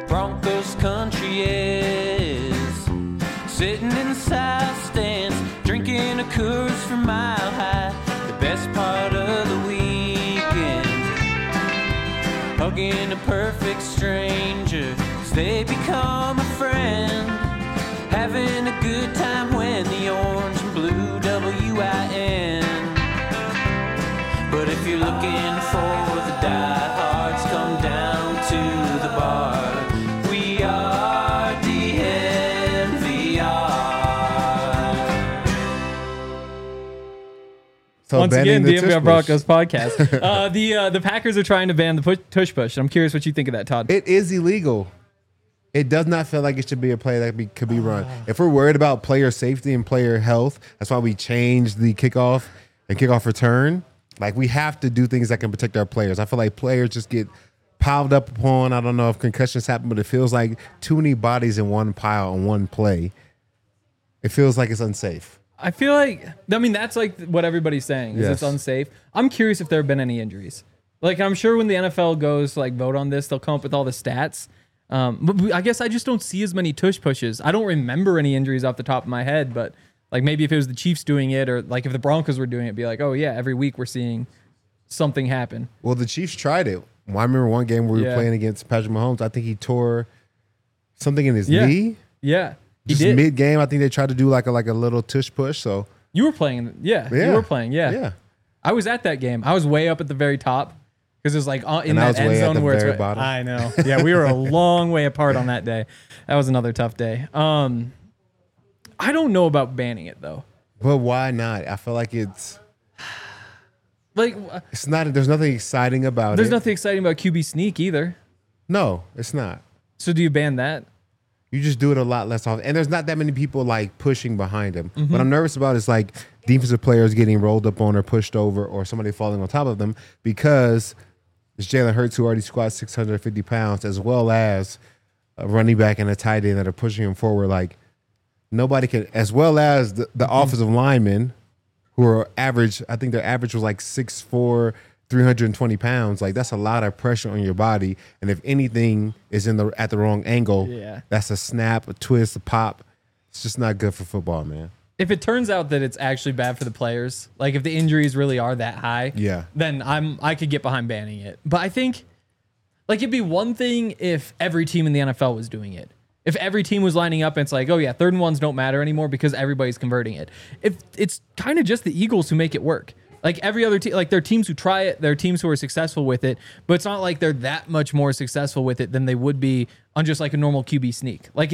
Broncos country is. Sitting in the south stands, drinking a Coors from Mile High. The best part of the weekend, hugging a perfect stranger, 'cause they become a friend. Having a good time when the orange and blue WIN. But if you're looking for the diehards, come down to the bar. We are DNVR. So once again, banning the the DNVR tush Broncos podcast. The Packers are trying to ban the tush push. I'm curious what you think of that, Todd. It is illegal. It does not feel like it should be a play that could be run. If we're worried about player safety and player health, that's why we changed the kickoff and kickoff return. Like, we have to do things that can protect our players. I feel like players just get piled up upon. I don't know if concussions happen, but it feels like too many bodies in one pile on one play. It feels like it's unsafe. I feel like, I mean, that's like what everybody's saying, is it's Yes. unsafe. I'm curious if there have been any injuries. Like, I'm sure when the NFL goes to like vote on this, they'll come up with all the stats. But I guess I just don't see as many tush pushes. I don't remember any injuries off the top of my head, but like maybe if it was the Chiefs doing it, or like if the Broncos were doing it, it'd be like, oh yeah, every week we're seeing something happen. Well, the Chiefs tried it. Well, I remember one game where we were Yeah. playing against Patrick Mahomes. I think he tore something in his Yeah. knee. Yeah, he Just did. mid-game, I think they tried to do like a little tush push. So You were playing, yeah, yeah, you were playing, yeah. yeah. I was at that game. I was way up at the very top because it was like in And I that was end way at zone the where very it's. bottom. I know. Yeah, we were a long way apart on that day. That was another tough day. I don't know about banning it though. But why not? I feel like it's Like, not. There's nothing exciting about there's it. nothing exciting about QB sneak either. No, it's not. So do you ban that? You just do it a lot less often. And there's not that many people like pushing behind him. Mm-hmm. What I'm nervous about is like defensive players getting rolled up on or pushed over, or somebody falling on top of them, because it's Jalen Hurts, who already squats 650 pounds, as well as a running back and a tight end that are pushing him forward. Like, nobody can, as well as the Mm-hmm. offensive linemen who are average. I think their average was like 6'4", 320 pounds. Like, that's a lot of pressure on your body. And if anything is at the wrong angle, Yeah. that's a snap, a twist, a pop. It's just not good for football, man. If it turns out that it's actually bad for the players, like if the injuries really are that high, Yeah. then I could get behind banning it. But I think like it'd be one thing if every team in the NFL was doing it. If every team was lining up and it's like, oh yeah, 3rd and 1s don't matter anymore because everybody's converting it. If it's kind of just the Eagles who make it work. Like every other team, like there are teams who try it, there are teams who are successful with it, but it's not like they're that much more successful with it than they would be on just like a normal QB sneak. Like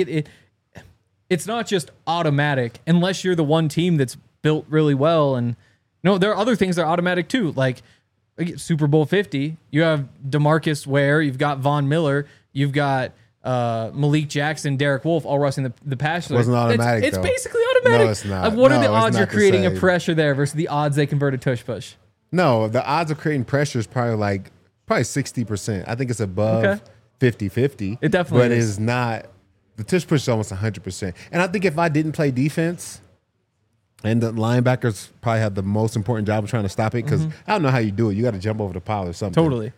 it's not just automatic unless you're the one team that's built really well. And no, there are other things that are automatic too. Like Super Bowl 50, you have DeMarcus Ware, you've got Von Miller, you've got Malik Jackson, Derek Wolfe, all rushing the pass. Wasn't automatic, It's though. basically automatic. No, it's not. What are No, the it's odds not you're the creating a same. pressure there versus the odds they convert a tush push? No, the odds of creating pressure is probably 60%. I think it's above Okay. 50-50. It definitely but is. it's not. The tush push is almost 100%. And I think if I didn't play defense, and the linebackers probably have the most important job of trying to stop it, because I don't know how you do it. You got to jump over the pile or something. Totally.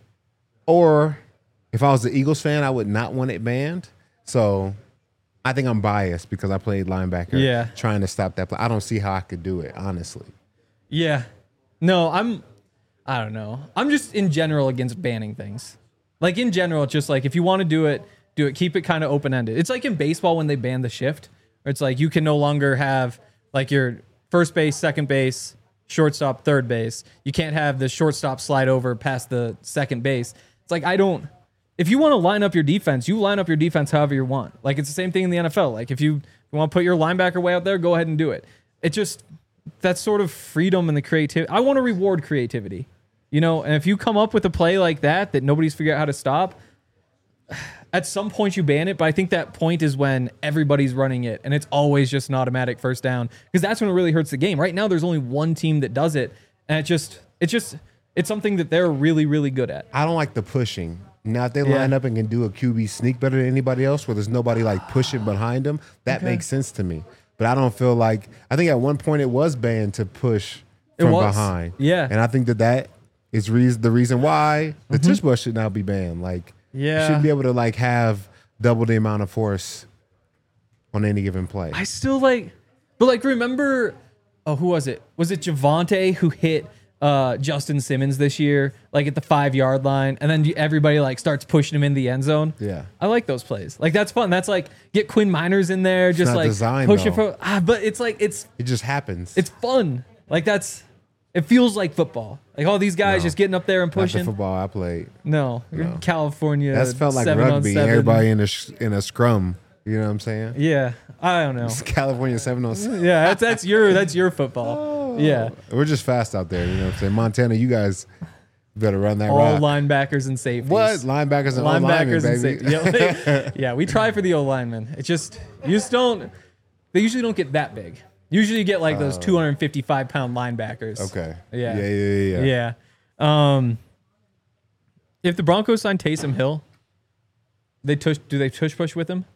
Or if I was the Eagles fan, I would not want it banned. So I think I'm biased because I played linebacker, Yeah. trying to stop that play. I don't see how I could do it, honestly. Yeah. No, I don't know. I'm just in general against banning things. Like in general, it's just like if you want to do it, do it. Keep it kind of open-ended. It's like in baseball when they ban the shift, where it's like you can no longer have like your first base, second base, shortstop, third base. You can't have the shortstop slide over past the second base. It's like if you want to line up your defense, you line up your defense however you want. Like it's the same thing in the NFL. Like if you want to put your linebacker way out there, go ahead and do it. It just that sort of freedom and the creativity. I want to reward creativity, and if you come up with a play like that nobody's figured out how to stop, at some point you ban it, but I think that point is when everybody's running it and it's always just an automatic first down, because that's when it really hurts the game. Right now there's only one team that does it, and it's something that they're really, really good at. I don't like the pushing. Now, if they line up and can do a QB sneak better than anybody else, where there's nobody like pushing behind them, that makes sense to me. But I don't feel like, I think at one point it was banned to push from behind. Yeah. And I think that is the reason why the tush push should now be banned. Like, you shouldn't be able to like have double the amount of force on any given play. I still like, but like remember, who was it? Was it Javonte who hit Justin Simmons this year, like at the 5-yard line, and then everybody like starts pushing him in the end zone? Yeah. I like those plays. Like that's fun. That's like get Quinn Miners in there, just not like designed, push it though. for. But it's like It just happens. it's fun. Like it feels like football. Like all these guys No. just getting up there and not the pushing. football I played. No, you're in California. That's felt like 7 on rugby. 7. Everybody in a scrum. You know what I'm saying? Yeah, I don't know. It's California 7-on-7. Yeah, that's your football. Yeah, We're just fast out there. You know what I'm saying? Montana, you guys better run that all rock. linebackers and safeties. What? Linebackers and Linebackers and baby. safeties. Yeah, like, yeah, we try for the O linemen. You just don't. They usually don't get that big. Usually you get like those 255-pound linebackers. Okay. Yeah. If the Broncos sign Taysom Hill, do they tush push with him?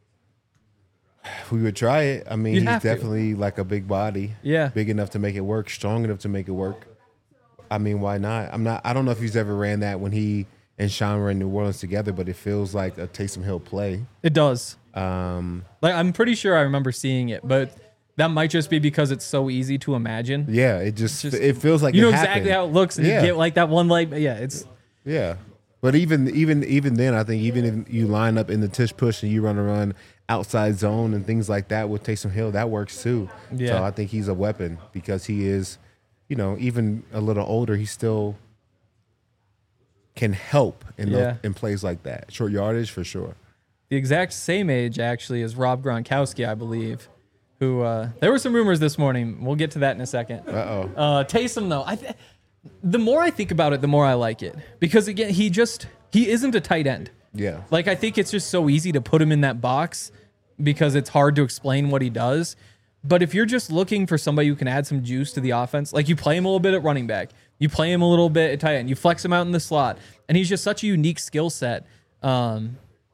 We would try it. I mean, You'd he's have to. definitely like a big body. Yeah. Big enough to make it work, strong enough to make it work. I mean, why not? I don't know if he's ever ran that when he and Sean were in New Orleans together, but it feels like a Taysom Hill play. It does. Like I'm pretty sure I remember seeing it, but that might just be because it's so easy to imagine. Yeah, it it feels like You know it exactly happened. how it looks, and Yeah. you get like that one leg. Yeah, it's Yeah. But even then, I think even if you line up in the tush push and you run outside zone and things like that with Taysom Hill, that works too. Yeah. So I think he's a weapon because he is, even a little older, he still can help in plays like that. Short yardage for sure. the exact same age actually as Rob Gronkowski, I believe. Who there were some rumors this morning. We'll get to that in a second. Taysom though, the more I think about it, the more I like it because again, he isn't a tight end. Yeah. Like I think it's just so easy to put him in that box because it's hard to explain what he does. But if you're just looking for somebody who can add some juice to the offense, like you play him a little bit at running back, you play him a little bit at tight end, you flex him out in the slot, and he's just such a unique skill set. Like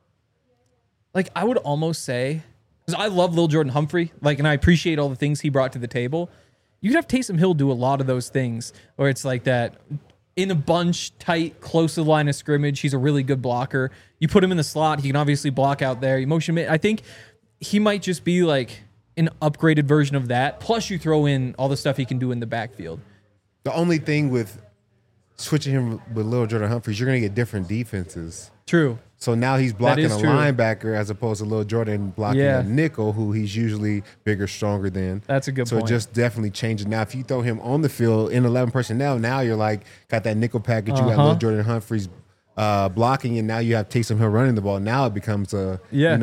I would almost say, because I love Lil Jordan Humphrey, and I appreciate all the things he brought to the table. You could have Taysom Hill do a lot of those things where it's like that in a bunch, tight, close to the line of scrimmage. He's a really good blocker. You put him in the slot, he can obviously block out there. You motion him. I think he might just be like an upgraded version of that. Plus, you throw in all the stuff he can do in the backfield. The only thing with switching him with Lil Jordan Humphries, you're going to get different defenses. True. So now he's blocking a is true. linebacker as opposed to Lil Jordan blocking Yeah. a nickel who he's usually bigger, stronger than. That's a good so point. it just definitely changes. Now, if you throw him on the field in 11 personnel, now you're like, got that nickel package. You got Lil Jordan Humphries blocking, and now you have Taysom Hill running the ball. Now it becomes a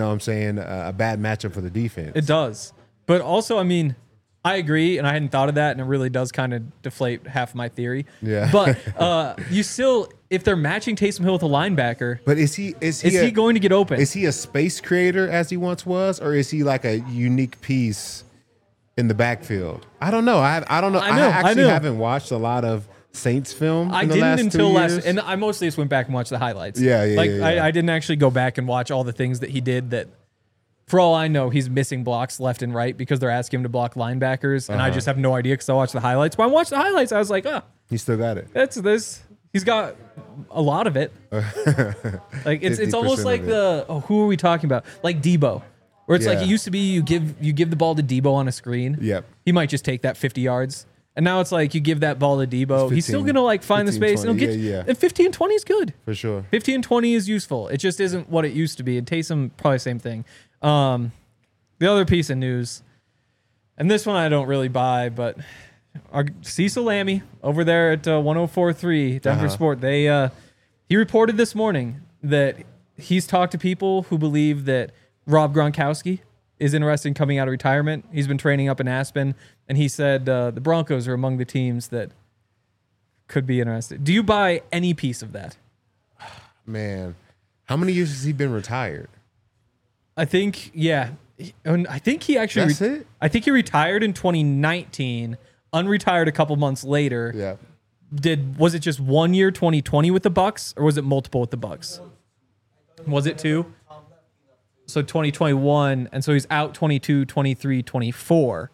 bad matchup for the defense. It does. But also, I mean, I agree, and I hadn't thought of that, and it really does kind of deflate half my theory. Yeah. But you still, if they're matching Taysom Hill with a linebacker, But is he going to get open? Is he a space creator as he once was, or is he like a unique piece in the backfield? I don't know. I don't know. I actually haven't watched a lot of Saints film. I in the didn't last until 3 last, years. and I mostly just went back and watched the highlights. Yeah. I didn't actually go back and watch all the things that he did that, for all I know, he's missing blocks left and right because they're asking him to block linebackers, and I just have no idea because I watched the highlights. But I watched the highlights, I was like, He still got it. that's this. He's got a lot of it. Like it's almost 50% like of it. who are we talking about? Like Debo, where it's like Yeah. it used to be you give the ball to Debo on a screen. Yep. He might just take that 50 yards. And now it's like you give that ball to Debo. He's still 15, going to find the 15, space. And 20. he'll get, Yeah. And 15 and 20 is good. For sure. 15 and 20 is useful. It just isn't what it used to be. And Taysom, probably same thing. The other piece of news, and this one I don't really buy, but our Cecil Lammy over there at 104.3 Denver Sport, he reported this morning that he's talked to people who believe that Rob Gronkowski is interested in coming out of retirement. He's been training up in Aspen, and he said the Broncos are among the teams that could be interested. Do you buy any piece of that? Man, how many years has he been retired? I think, yeah. And I think he actually. That's it? I think he retired in 2019, unretired a couple months later. Yeah. Was it just 1 year, 2020 with the Bucks, or was it multiple with the Bucks? Was it 2? So 2021, and so he's out 22, 23, 24.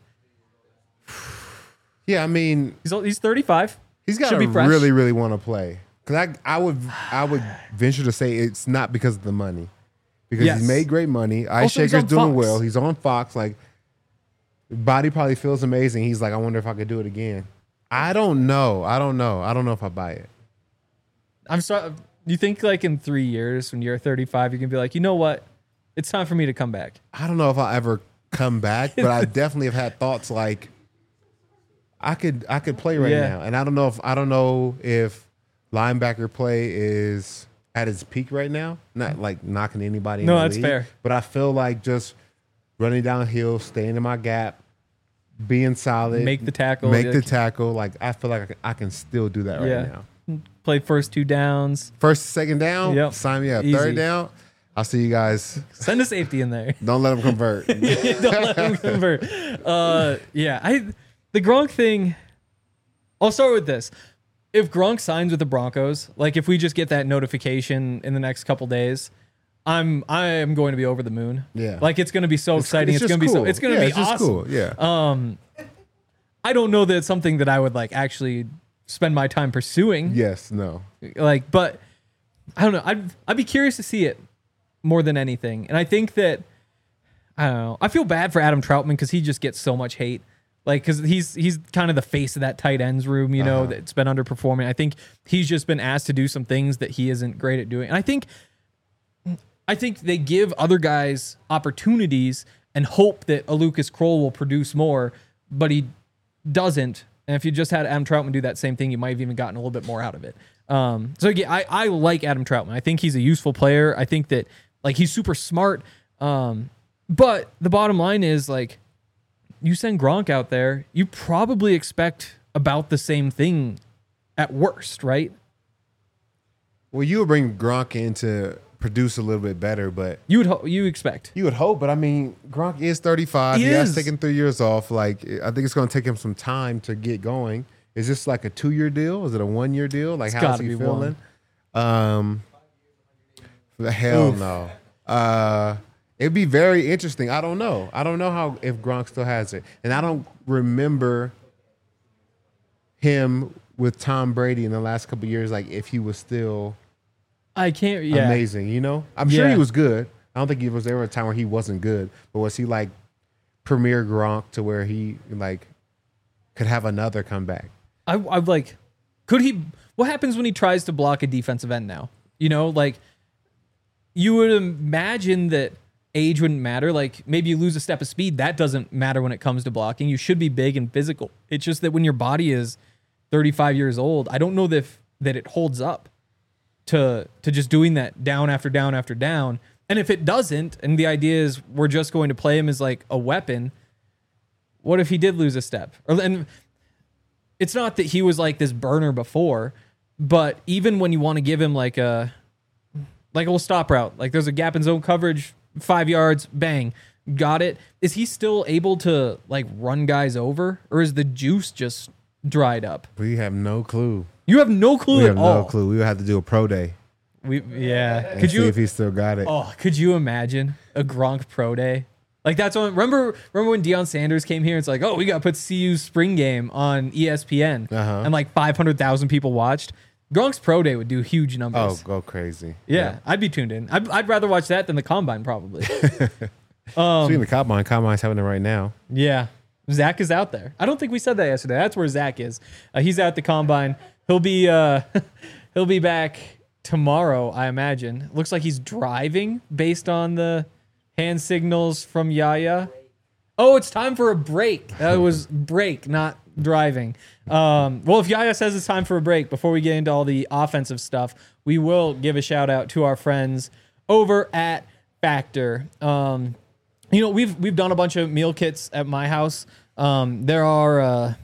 Yeah, I mean, He's 35. he's got Should to be fresh. really, really want to play. Because I would venture to say it's not because of the money. because Yes. he's made great money. Ice Also, he's Shaker's on doing Fox. well. He's on Fox. Like, body probably feels amazing. He's like, I wonder if I could do it again. I don't know. I don't know if I buy it. I'm sorry. You think like in 3 years when you're 35, you can be like, you know what? It's time for me to come back. I don't know if I'll ever come back, but I definitely have had thoughts like I could play right Yeah. now. And I don't know if linebacker play is at its peak right now. Not like knocking anybody in No, the that's league, fair. but I feel like just running downhill, staying in my gap, being solid, Make the tackle. make the like, tackle. Like I feel like I can still do that right Yeah. now. play first 2 downs. First, second down, Yep. sign me up. Easy. Third down, I'll see you guys. Send a safety in there. Don't let them convert. Don't let him convert. The Gronk thing. I'll start with this. If Gronk signs with the Broncos, like if we just get that notification in the next couple days, I am going to be over the moon. Yeah. Like it's going to be so exciting. It's just going to be so. cool. It's going to Yeah, be it's just awesome. cool. Yeah. I don't know that it's something that I would like actually spend my time pursuing. Yes. No. Like, but I don't know. I'd be curious to see it more than anything. And I think that I don't know. I feel bad for Adam Troutman because he just gets so much hate. Like, because he's kind of the face of that tight ends room, you know, that's been underperforming. I think he's just been asked to do some things that he isn't great at doing. And I think they give other guys opportunities and hope that a Lucas Kroll will produce more, but he doesn't. And if you just had Adam Troutman do that same thing, you might have even gotten a little bit more out of it. So again, I like Adam Troutman. I think he's a useful player. I think that like he's super smart. But the bottom line is like you send Gronk out there, you probably expect about the same thing at worst, right? Well, you would bring Gronk in to produce a little bit better, but You expect. you would hope. But I mean, Gronk is 35. He He has is. taken 3 years off. Like, I think it's going to take him some time to get going. Is this like a 2-year deal? Is it a 1-year deal? Like, It's how's gotta he be feeling? The hell Oof. no. It'd be very interesting. I don't know. I don't know how if Gronk still has it, and I don't remember him with Tom Brady in the last couple of years. Like if he was still I can't. Yeah. amazing, you know. I'm sure Yeah. he was good. I don't think he was ever a time where he wasn't good. But was he like premier Gronk to where he like could have another comeback? I'm like, could he? What happens when he tries to block a defensive end now? You know, like you would imagine that age wouldn't matter. Like maybe you lose a step of speed. That doesn't matter when it comes to blocking. You should be big and physical. It's just that when your body is 35 years old, I don't know that it holds up to just doing that down after down after down. And if it doesn't, and the idea is we're just going to play him as like a weapon, what if he did lose a step? And it's not that he was like this burner before, but even when you want to give him like a little stop route, like there's a gap in zone coverage, 5 yards, bang, got it. Is he still able to like run guys over, or is the juice just dried up? We have no clue. You have no clue We at have all. no clue. We would have to do a pro day Yeah. and Could see you? if he still got it. Oh, could you imagine a Gronk pro day? Like that's when remember when Deion Sanders came here? It's like, oh, we got to put CU's spring game on ESPN, and like 500,000 people watched. Gronk's pro day would do huge Oh, numbers. go crazy. Yeah, I'd be tuned in. I'd rather watch that than the combine probably. Speaking of Combine's having it right now. Yeah, Zach is out there. I don't think we said that yesterday. That's where Zach is. He's out at the combine. He'll be he'll be back tomorrow, I imagine. Looks like he's driving based on the hand signals from Yaya. Oh, it's time for a break. That was break, not driving. Well, if Yaya says it's time for a break, before we get into all the offensive stuff, we will give a shout out to our friends over at Factor. You know, we've done a bunch of meal kits at my house. There are,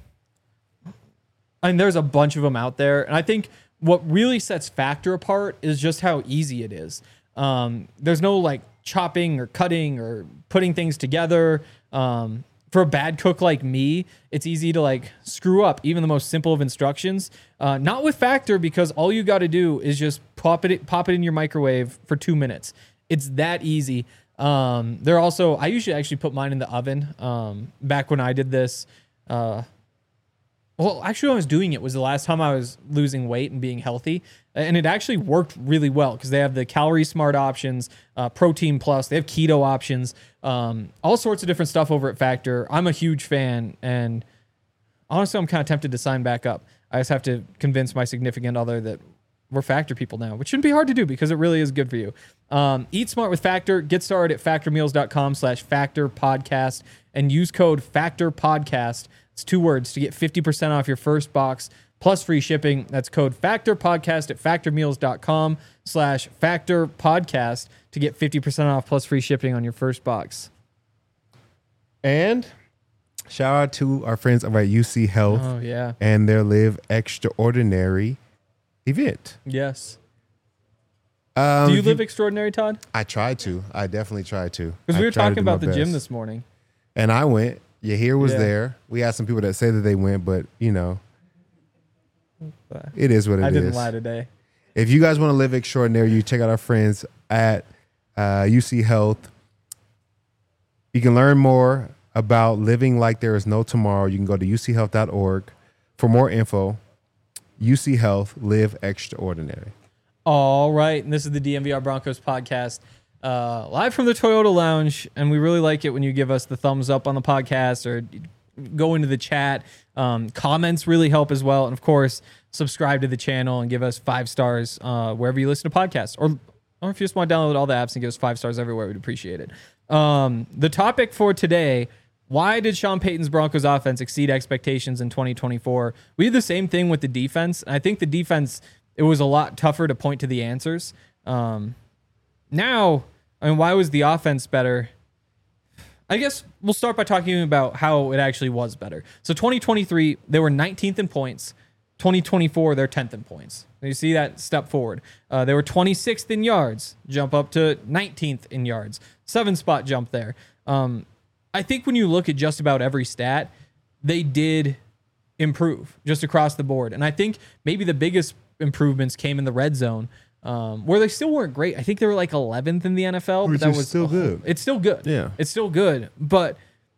there's a bunch of them out there, and I think what really sets Factor apart is just how easy it is. There's no like chopping or cutting or putting things together. For a bad cook like me, it's easy to like screw up even the most simple of instructions. Not with Factor, because all you got to do is just pop it in your microwave for 2 minutes. It's that easy. They're also, I usually actually put mine in the oven. Back when I did this, Well, actually, when I was doing it was the last time I was losing weight and being healthy. And it actually worked really well because they have the Calorie Smart options, Protein Plus. They have keto options, all sorts of different stuff over at Factor. I'm a huge fan. And honestly, I'm kind of tempted to sign back up. I just have to convince my significant other that we're Factor people now, which shouldn't be hard to do because it really is good for you. Eat smart with Factor. Get started at factormeals.com/Factor Podcast and use code Factor Podcast. It's 2 words to get 50% off your first box plus free shipping. That's code Factor Podcast at factormeals.com/Factor Podcast to get 50% off plus free shipping on your first box. And shout out to our friends over at UC Health and their Live Extraordinary event. Yes. Do you live extraordinary, Todd? I try to. I definitely try to. Because we were talking about the gym this morning. And I went. Yahir was there. We had some people that say that they went, but, you know, it is what it is. I didn't lie today. If you guys want to live extraordinary, you check out our friends at UC Health. You can learn more about living like there is no tomorrow. You can go to uchealth.org for more info. UC Health, live extraordinary. All right. And this is the DNVR Broncos podcast. Live from the Toyota Lounge, and we really like it when you give us the thumbs up on the podcast or go into the chat. Comments really help as well, and of course, subscribe to the channel and give us 5 stars wherever you listen to podcasts, or if you just want to download all the apps and give us 5 stars everywhere, we'd appreciate it. The topic for today: why did Sean Payton's Broncos offense exceed expectations in 2024? We did the same thing with the defense, and I think the defense, it was a lot tougher to point to the answers. Now, I mean, why was the offense better? I guess we'll start by talking about how it actually was better. So 2023, they were 19th in points. 2024, they're 10th in points. You see that step forward. They were 26th in yards, jump up to 19th in yards. 7-spot jump there. I think when you look at just about every stat, they did improve just across the board. And I think maybe the biggest improvements came in the red zone, where they still weren't great. I think they were like 11th in the NFL, but that was still good. It's still good. Yeah. It's still good. But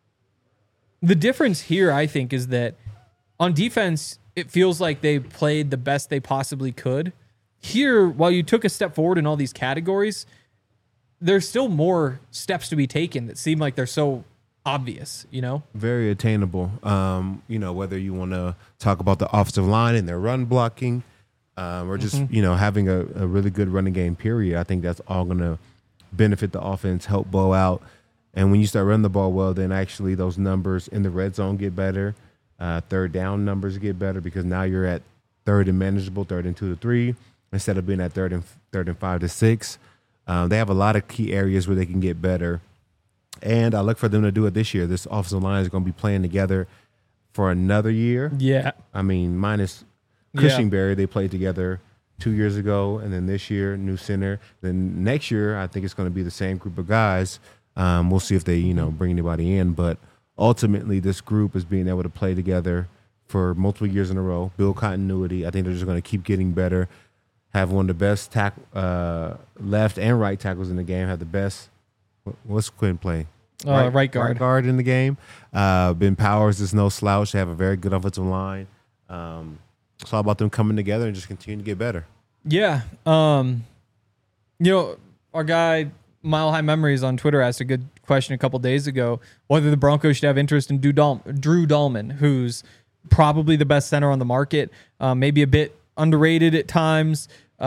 the difference here, I think, is that on defense, it feels like they played the best they possibly could. Here, while you took a step forward in all these categories, there's still more steps to be taken that seem like they're so obvious, you know? Very attainable. You know, whether you want to talk about the offensive line and their run blocking, or just, you know, having a really good running game, period. I think that's all going to benefit the offense, help blow out. And when you start running the ball well, then actually those numbers in the red zone get better. Third down numbers get better because now you're at 3rd and manageable, 3rd and 2 to 3, instead of being at 3rd and 5 to 6. They have a lot of key areas where they can get better. And I look for them to do it this year. This offensive line is going to be playing together for another year. Yeah. I mean, minus Cushingberry, they played together 2 years ago, and then this year, new center. Then next year, I think it's going to be the same group of guys. We'll see if they, you know, bring anybody in. But ultimately, this group is being able to play together for multiple years in a row, build continuity. I think they're just going to keep getting better, have one of the best left and right tackles in the game, have the best – what's Quinn play? Right guard. Right guard in the game. Ben Powers is no slouch. They have a very good offensive line. It's all about them coming together and just continue to get better. Yeah. You know, our guy, Mile High Memories on Twitter asked a good question a couple days ago, whether the Broncos should have interest in Drew Dahlman, who's probably the best center on the market, maybe a bit underrated at times,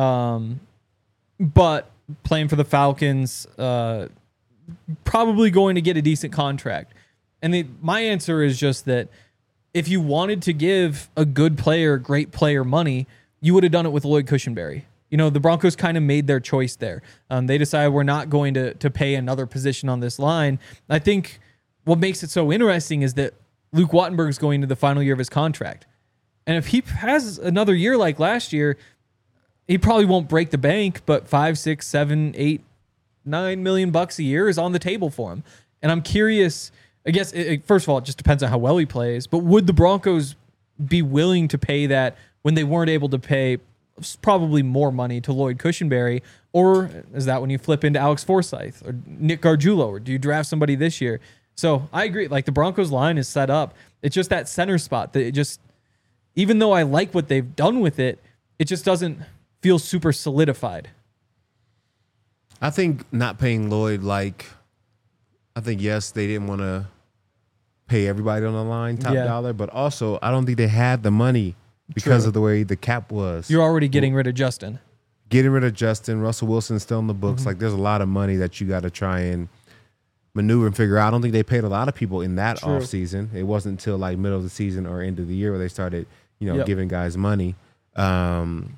but playing for the Falcons, probably going to get a decent contract. And my answer is just that if you wanted to give a good player, great player money, you would have done it with Lloyd Cushenberry. You know, the Broncos kind of made their choice there. They decided we're not going to pay another position on this line. I think what makes it so interesting is that Luke Wattenberg is going to the final year of his contract. And if he has another year like last year, he probably won't break the bank, but $5, $6, $7, $8, $9 million bucks a year is on the table for him. And I'm curious, I guess, first of all, it just depends on how well he plays, but would the Broncos be willing to pay that when they weren't able to pay probably more money to Lloyd Cushenberry? Or is that when you flip into Alex Forsythe or Nick Gargiulo, or do you draft somebody this year? So I agree. Like, the Broncos line is set up. It's just that center spot that even though I like what they've done with it, it just doesn't feel super solidified. I think not paying Lloyd, I think, yes, they didn't want to pay everybody on the line top dollar, but also I don't think they had the money because of the way the cap was. You're already getting rid of Justin. Getting rid of Justin, Russell Wilson's still in the books. Like, there's a lot of money that you got to try and maneuver and figure out. I don't think they paid a lot of people in that offseason. It wasn't until like middle of the season or end of the year where they started, giving guys money. And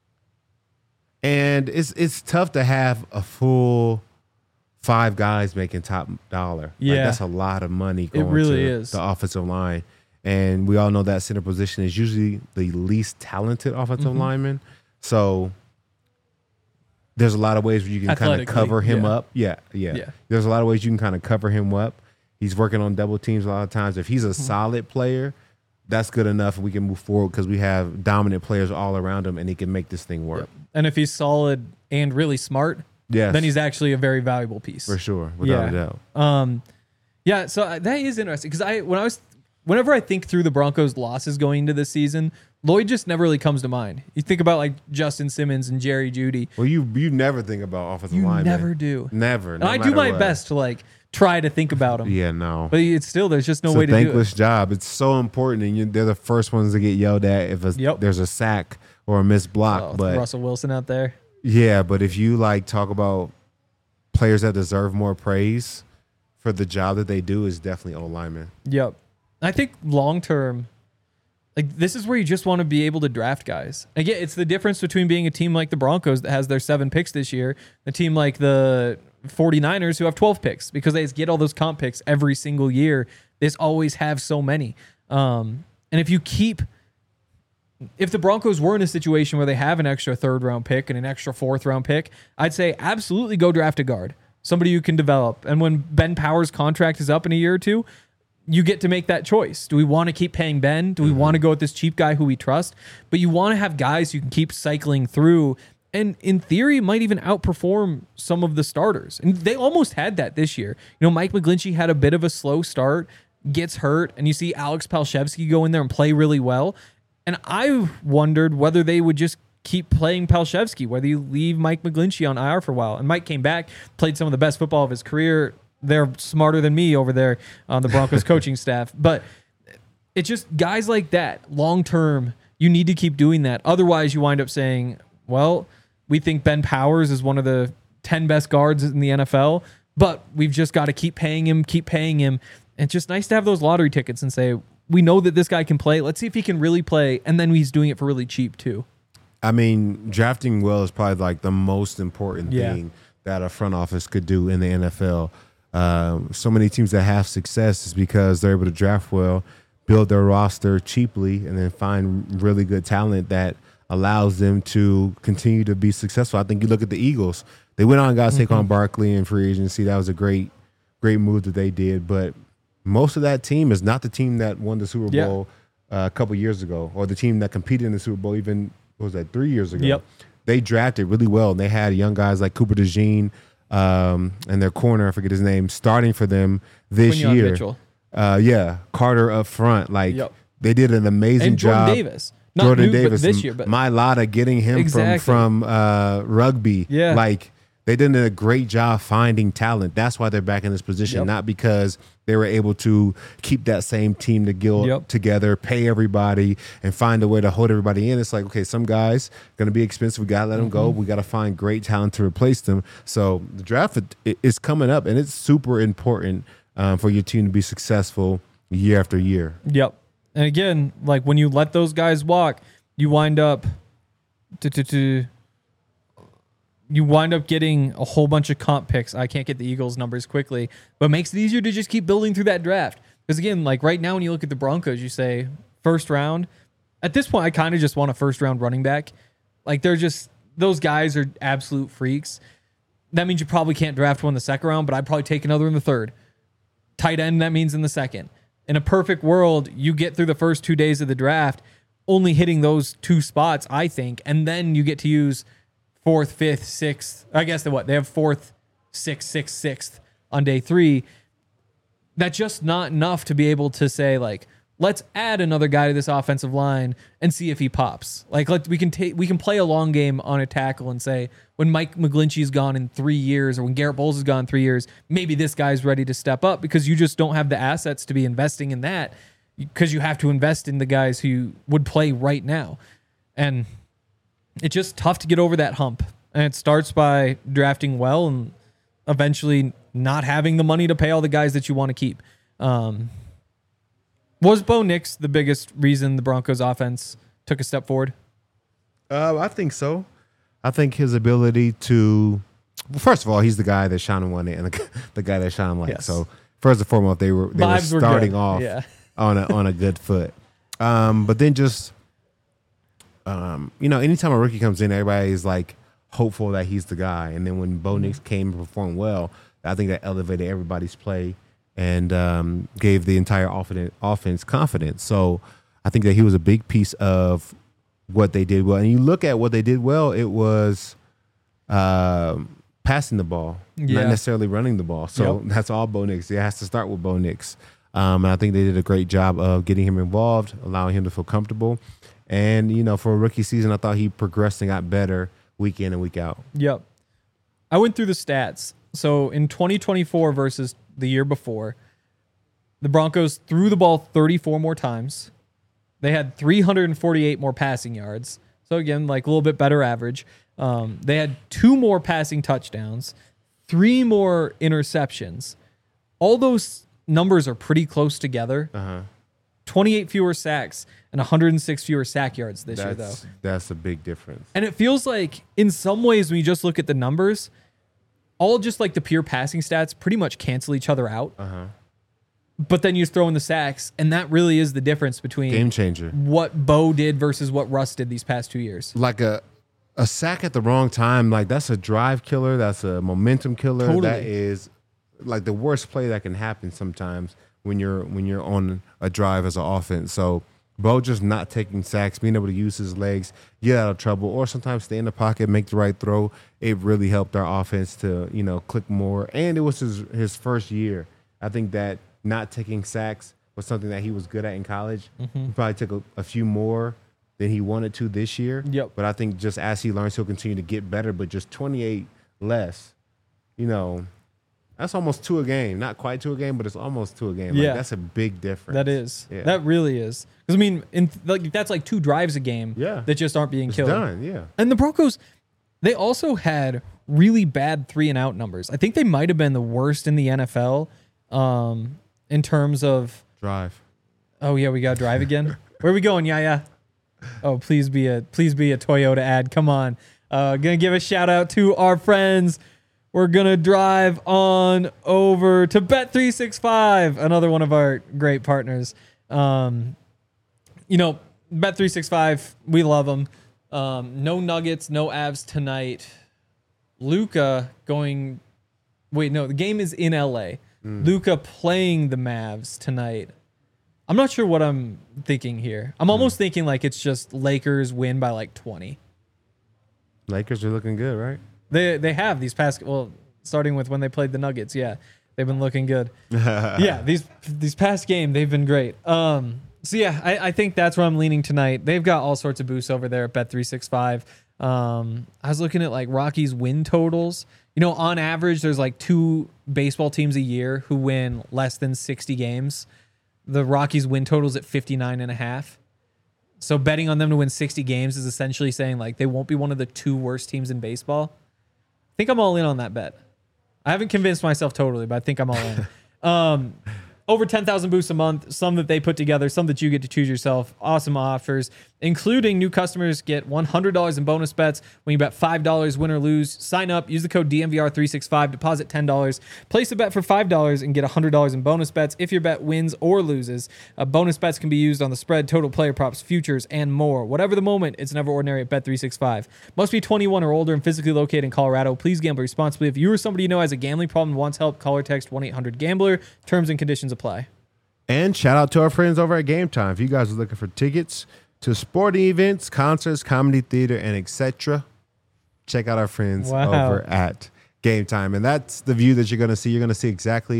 it's tough to have a full 5 guys making top dollar. Yeah. Like, that's a lot of money going to the offensive line. And we all know that center position is usually the least talented offensive lineman. So there's a lot of ways where you can kind of cover him up. Yeah. There's a lot of ways you can kind of cover him up. He's working on double teams a lot of times. If he's a solid player, that's good enough. We can move forward because we have dominant players all around him, and he can make this thing work. And if he's solid and really smart, then he's actually a very valuable piece. For sure, without a doubt. So that is interesting because whenever I think through the Broncos' losses going into this season, Lloyd just never really comes to mind. You think about like Justin Simmons and Jerry Jeudy. Well, you never think about offensive linemen. You never do. Never. And I do my best to like try to think about them. Yeah, no. But it's still, there's just no way to do it. It's a thankless job. It's so important, and they're the first ones to get yelled at if there's a sack or a missed block. But Russell Wilson out there. Yeah, but if you like talk about players that deserve more praise for the job that they do, is definitely O-linemen. Yep. I think long term, like this is where you just want to be able to draft guys. Again, it's the difference between being a team like the Broncos that has their 7 picks this year, a team like the 49ers who have 12 picks because they just get all those comp picks every single year. They just always have so many. And if the Broncos were in a situation where they have an extra 3rd round pick and an extra 4th round pick, I'd say absolutely go draft a guard, somebody you can develop. And when Ben Powers' contract is up in a year or two, you get to make that choice. Do we want to keep paying Ben? Do we want to go with this cheap guy who we trust? But you want to have guys you can keep cycling through and in theory might even outperform some of the starters. And they almost had that this year. Mike McGlinchey had a bit of a slow start, gets hurt, and you see Alex Palshevsky go in there and play really well. And I wondered whether they would just keep playing Palshevsky, whether you leave Mike McGlinchey on IR for a while. And Mike came back, played some of the best football of his career. They're smarter than me over there on the Broncos coaching staff. But it's just guys like that, long term, you need to keep doing that. Otherwise, you wind up saying, well, we think Ben Powers is one of the 10 best guards in the NFL, but we've just got to keep paying him. And it's just nice to have those lottery tickets and say, we know that this guy can play. Let's see if he can really play. And then he's doing it for really cheap too. I mean, drafting well is probably like the most important thing that a front office could do in the NFL. So many teams that have success is because they're able to draft well, build their roster cheaply, and then find really good talent that allows them to continue to be successful. I think you look at the Eagles. They went on and got Saquon Barkley in free agency. That was a great move that they did. But most of that team is not the team that won the Super Bowl a couple years ago, or the team that competed in the Super Bowl even, what was that, 3 years ago? Yep. They drafted really well, and they had young guys like Cooper DeJean and their corner, I forget his name, starting for them this Quinyon year. Mitchell. Carter up front. They did an amazing job. Jordan Davis. Not Jordan Davis this year, but Mailata, getting him from rugby. Yeah. They did a great job finding talent. That's why they're back in this position, not because they were able to keep that same team together, pay everybody, and find a way to hold everybody in. It's like, okay, some guys going to be expensive. We got to let them go. We got to find great talent to replace them. So the draft is coming up, and it's super important for your team to be successful year after year. Yep. And again, when you let those guys walk, you wind up getting a whole bunch of comp picks. I can't get the Eagles numbers quickly, but it makes it easier to just keep building through that draft. Because again, right now when you look at the Broncos, you say first round. At this point, I kind of just want a first round running back. They're just, those guys are absolute freaks. That means you probably can't draft one in the second round, but I'd probably take another in the third. Tight end, that means in the second. In a perfect world, you get through the first 2 days of the draft, only hitting those 2 spots, I think, and then you get to use 4th, 5th, 6th. I guess they have 4th, 6th, 6th on day 3. That's just not enough to be able to say, let's add another guy to this offensive line and see if he pops. Like we can play a long game on a tackle and say when Mike McGlinchey's gone in 3 years or when Garrett Bowles is gone in 3 years, maybe this guy's ready to step up because you just don't have the assets to be investing in that because you have to invest in the guys who would play right now. And it's just tough to get over that hump. And it starts by drafting well and eventually not having the money to pay all the guys that you want to keep. Was Bo Nix the biggest reason the Broncos offense took a step forward? I think so. I think his ability to, well, first of all, he's the guy that Sean wanted and the guy that Sean liked. Yes. So first and foremost, they were starting off on a good foot. But then just, anytime a rookie comes in, everybody's like hopeful that he's the guy. And then when Bo Nix came and performed well, I think that elevated everybody's play and gave the entire offense confidence. So I think that he was a big piece of what they did well. And you look at what they did well, it was passing the ball, not necessarily running the ball. So that's all Bo Nix. It has to start with Bo Nix. And I think they did a great job of getting him involved, allowing him to feel comfortable. And, for a rookie season, I thought he progressed and got better week in and week out. Yep. I went through the stats. So in 2024 versus the year before, the Broncos threw the ball 34 more times. They had 348 more passing yards. So again, like a little bit better average. They had 2 more passing touchdowns, 3 more interceptions. All those numbers are pretty close together. 28 fewer sacks and 106 fewer sack yards this year, though. That's a big difference. And it feels like in some ways, when you just look at the numbers, all just like the pure passing stats pretty much cancel each other out. But then you throw in the sacks, and that really is the difference between game changer. What Bo did versus what Russ did these past 2 years. Like a sack at the wrong time, like that's a drive killer. That's a momentum killer. Totally. That is like the worst play that can happen sometimes when you're on a drive as an offense. So Bo just not taking sacks, being able to use his legs, get out of trouble, or sometimes stay in the pocket, make the right throw. It really helped our offense to, click more. And it was his first year. I think that not taking sacks was something that he was good at in college. He probably took a few more than he wanted to this year. Yep. But I think just as he learns, he'll continue to get better. But just 28 less, that's almost 2 a game. Not quite 2 a game, but it's almost 2 a game. Yeah. Like, that's a big difference. That is. Yeah. That really is. Because, I mean, that's like 2 drives a game that just aren't being killed. Done, yeah. And the Broncos, they also had really bad 3-and-out numbers. I think they might have been the worst in the NFL in terms of drive. Oh, yeah, we got to drive again. Where are we going, yeah? Oh, please be a Toyota ad. Come on. Gonna give a shout out to our friends. We're going to drive on over to Bet365, another one of our great partners. Bet365, we love them. No Nuggets, no Avs tonight. Luka the game is in LA. Luka playing the Mavs tonight. I'm not sure what I'm thinking here. I'm almost thinking like it's just Lakers win by like 20. Lakers are looking good, right? They have these past, starting with when they played the Nuggets. Yeah, they've been looking good. Yeah, these past game, they've been great. I think that's where I'm leaning tonight. They've got all sorts of boosts over there at Bet365. I was looking at like Rockies win totals. On average, there's like 2 baseball teams a year who win less than 60 games. The Rockies win totals at 59.5. So betting on them to win 60 games is essentially saying like they won't be one of the 2 worst teams in baseball. I think I'm all in on that bet. I haven't convinced myself totally, but I think I'm all in. Over 10,000 boosts a month, some that they put together, some that you get to choose yourself. Awesome offers, including new customers get $100 in bonus bets when you bet $5, win or lose. Sign up, use the code DMVR365, deposit $10, place a bet for $5 and get $100 in bonus bets if your bet wins or loses. Bonus bets can be used on the spread, total player props, futures, and more. Whatever the moment, it's never ordinary at Bet365. Must be 21 or older and physically located in Colorado. Please gamble responsibly. If you or somebody you know has a gambling problem and wants help, call or text 1-800-GAMBLER. Terms and conditions apply. And shout out to our friends over at Game Time. If you guys are looking for tickets to sporting events, concerts, comedy, theater, and etc., check out our friends over at Game Time. And that's the view that you're going to see. You're going to see exactly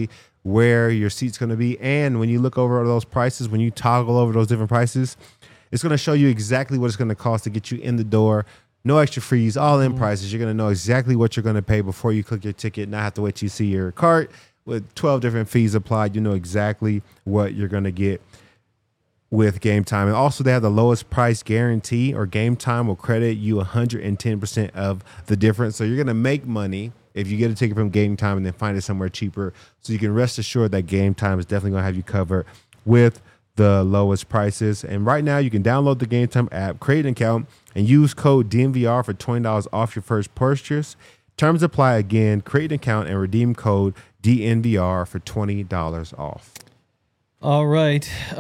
where your seat's going to be. And when you look over those prices, when you toggle over those different prices, it's going to show you exactly what it's going to cost to get you in the door. No extra fees, all in prices. You're going to know exactly what you're going to pay before you click your ticket, not have to wait till you see your cart. With 12 different fees applied, you know exactly what you're going to get with Game Time. And also, they have the lowest price guarantee, or Game Time will credit you 110% of the difference. So you're going to make money if you get a ticket from Game Time and then find it somewhere cheaper. So you can rest assured that Game Time is definitely going to have you covered with the lowest prices. And right now, you can download the Game Time app, create an account, and use code DNVR for $20 off your first purchase. Terms apply again. Create an account and redeem code DNVR for $20 off. All right.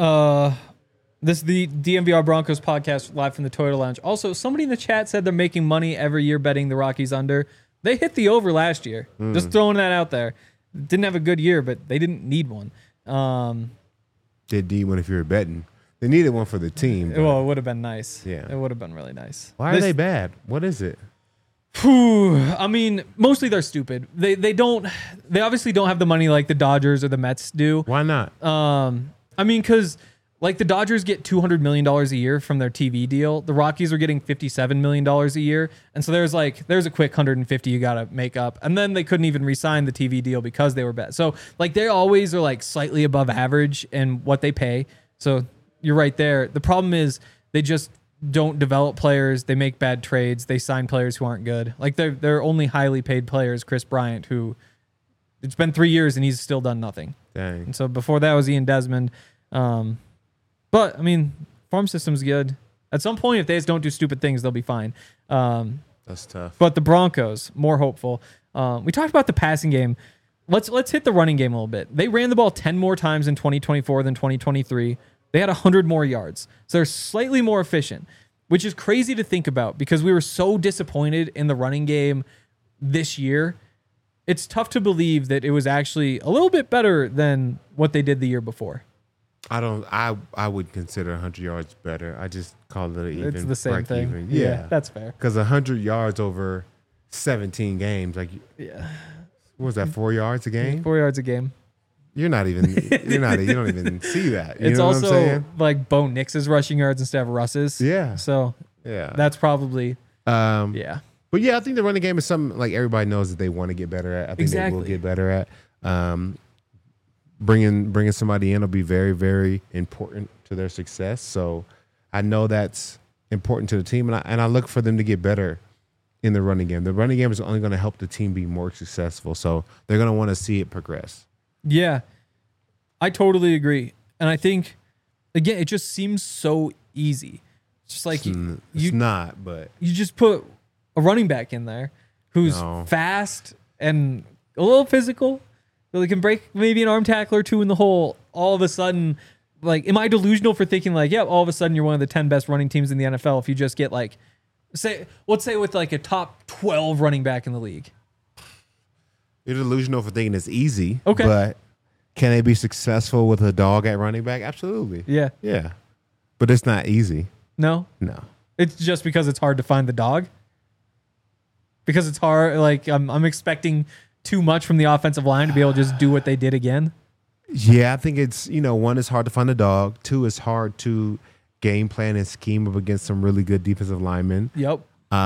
This is the DNVR Broncos podcast live from the Toyota Lounge. Also, somebody in the chat said they're making money every year betting the Rockies under. They hit the over last year. Just throwing that out there. Didn't have a good year, but they didn't need one. Did need one if you were betting. They needed one for the team. Well, it would have been nice. Yeah. It would have been really nice. Why are they bad? What is it? I mean, mostly they're stupid. They obviously don't have the money like the Dodgers or the Mets do. Why not? I mean, because like the Dodgers get $200 million a year from their TV deal. The Rockies are getting $57 million a year. And so there's a quick 150 you got to make up. And then they couldn't even re-sign the TV deal because they were bad. So like they always are like slightly above average in what they pay. So you're right there. The problem is they just don't develop players. They make bad trades. They sign players who aren't good. Like they're only highly paid players, Chris Bryant, who it's been 3 years and he's still done nothing. Dang. And so before that was Ian Desmond. But I mean, farm system's good. At some point, if they just don't do stupid things, they'll be fine. That's tough. But the Broncos, more hopeful. We talked about the passing game. Let's hit the running game a little bit. They ran the ball 10 more times in 2024 than 2023. They had 100 more yards. So they're slightly more efficient, which is crazy to think about because we were so disappointed in the running game this year. It's tough to believe that it was actually a little bit better than what they did the year before. I would consider 100 yards better. I just call it even. It's the same thing. Even. Yeah, that's fair. Because 100 yards over 17 games, like, Yeah. what was that, 4 yards a game? 4 yards a game. You don't even see that. You It's know also what I'm saying? like Bo Nix's rushing yards instead of Russ's. Yeah. So Yeah. that's probably, Um, yeah. But yeah, I think the running game is something like everybody knows that they want to get better at. I think they will Exactly. get better at. Bringing somebody in will be very, very important to their success. So I know that's important to the team, and I look for them to get better in the running game. The running game is only going to help the team be more successful. So they're going to want to see it progress. Yeah, I totally agree. And I think, again, it just seems so easy. It's just like It's not, but you just put a running back in there who's No. fast and a little physical. They can break maybe an arm tackle or two in the hole. All of a sudden, like, am I delusional for thinking like, yeah, all of a sudden you're one of the 10 best running teams in the NFL if you just get like, let's say with like a top 12 running back in the league. you're delusional for thinking it's easy. Okay. But can they be successful with a dog at running back? Absolutely. Yeah. Yeah. But it's not easy. No? No. It's just because it's hard to find the dog. Because it's hard. Like I'm expecting too much from the offensive line to be able to just do what they did again. Yeah, I think it's, one, it's hard to find a dog. Two, it's hard to game plan and scheme up against some really good defensive linemen. Yep.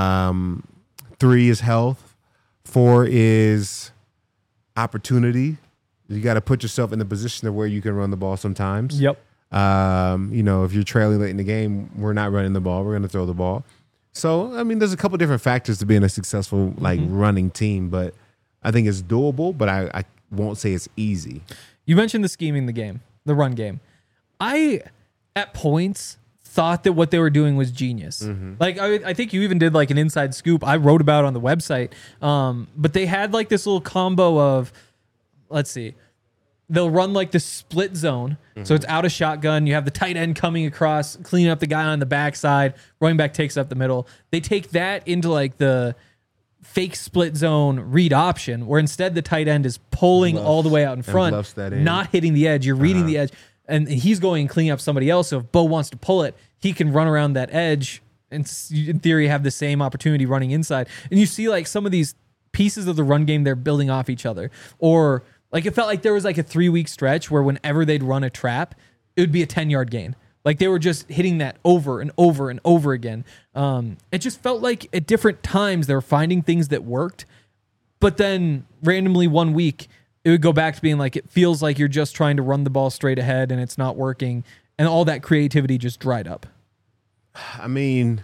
3 is health. 4 is opportunity. You got to put yourself in the position of where you can run the ball sometimes. Yep. If you're trailing late in the game, we're not running the ball. We're going to throw the ball. So, I mean, there's a couple different factors to being a successful, running team, but I think it's doable, but I won't say it's easy. You mentioned the scheming the run game. I, at points, thought that what they were doing was genius. Like, I think you even did like an inside scoop I wrote about on the website. But they had like this little combo of, let's see, they'll run like the split zone. So it's out of shotgun. You have the tight end coming across, cleaning up the guy on the backside. Running back takes up the middle. They take that into like the fake split zone read option, where instead the tight end is pulling all the way out in front, bluffs that in. not hitting the edge. You're reading the edge, and he's going and cleaning up somebody else. So if Bo wants to pull it, he can run around that edge and in theory have the same opportunity running inside. And you see like some of these pieces of the run game, they're building off each other. Or Like it felt like there was like a 3-week stretch where whenever they'd run a trap, it would be a 10-yard gain. Like they were just hitting that over and over and over again. It just felt like at different times they were finding things that worked, but then randomly one week it would go back to being like, it feels like you're just trying to run the ball straight ahead and it's not working. And all that creativity just dried up. I mean,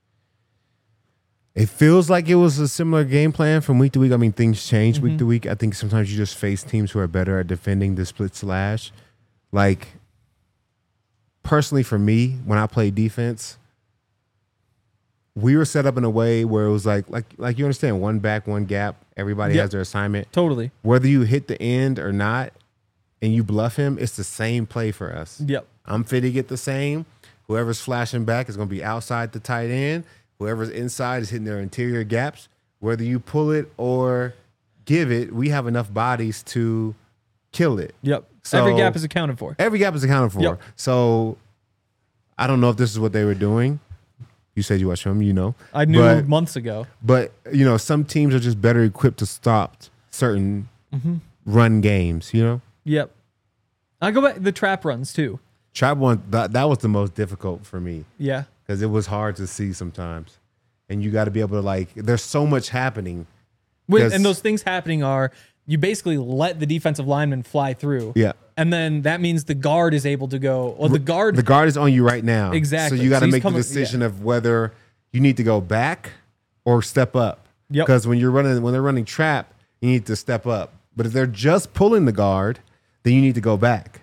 it feels like it was a similar game plan from week to week. I mean, things change week to week. I think sometimes you just face teams who are better at defending the split slash. Like, personally for me, when I played defense, we were set up in a way where it was like you understand, one back, one gap. Everybody has their assignment. Totally. Whether you hit the end or not and you bluff him, it's the same play for us. Yep. I'm fitting it the same. Whoever's flashing back is going to be outside the tight end. Whoever's inside is hitting their interior gaps. Whether you pull it or give it, we have enough bodies to kill it. Yep. So every gap is accounted for. Every gap is accounted for. Yep. So I don't know if this is what they were doing. You said you watched them, you know. I knew months ago. But, you know, some teams are just better equipped to stop certain run games, you know? Yep. I go back the trap runs too. Trap one, that was the most difficult for me. Yeah. Because it was hard to see sometimes. And you got to be able to, like, there's so much happening. And those things happening are, you basically let the defensive lineman fly through. Yeah. And then that means the guard is able to go. Well, the guard is on you right now. Exactly. So you got to he's make the decision of whether you need to go back or step up. Yep. Because when they're running trap, you need to step up. But if they're just pulling the guard, then you need to go back.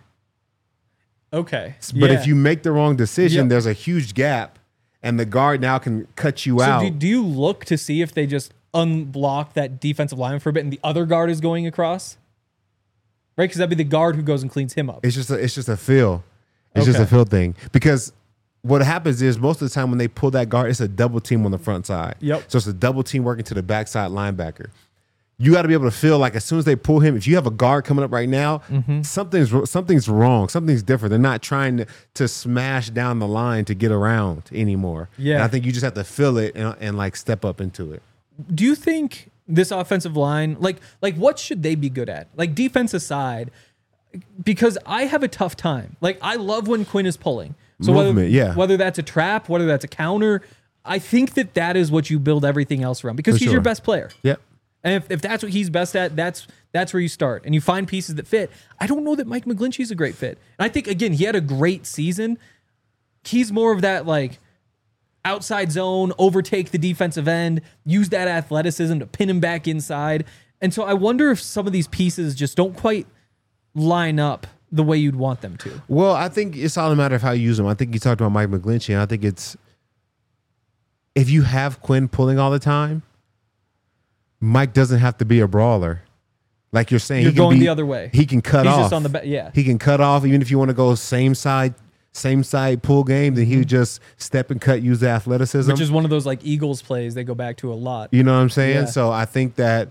Okay. But if you make the wrong decision, Yep. there's a huge gap, and the guard now can cut you out. So do you look to see if they just unblock that defensive lineman for a bit and the other guard is going across? Right? Because that'd be the guard who goes and cleans him up. It's just a feel. It's just a feel thing. Because what happens is most of the time when they pull that guard, it's a double team on the front side. Yep. So it's a double team working to the backside linebacker. You got to be able to feel like as soon as they pull him, if you have a guard coming up right now, something's wrong. Something's different. They're not trying to smash down the line to get around anymore. Yeah. And I think you just have to feel it and like step up into it. Do you think this offensive line, like what should they be good at? Like defense aside, because I have a tough time. Like I love when Quinn is pulling. So Movement, whether that's a trap, whether that's a counter, I think that is what you build everything else around because he's your best player. Yep. And if that's what he's best at, that's where you start. And you find pieces that fit. I don't know that Mike McGlinchey's a great fit. And I think, again, he had a great season. He's more of that, like, outside zone, overtake the defensive end, use that athleticism to pin him back inside. And so I wonder if some of these pieces just don't quite line up the way you'd want them to. Well, I think it's all a matter of how you use them. I think you talked about Mike McGlinchey, and I think it's if you have Quinn pulling all the time, Mike doesn't have to be a brawler. Like you're saying, You're he can going be, the other way. He can cut He's off. just on the yeah. He can cut off even if you want to go same side pull game. Then he would just step and cut, use the athleticism, Which is one of those like Eagles plays they go back to a lot. You know what I'm saying? Yeah. So I think that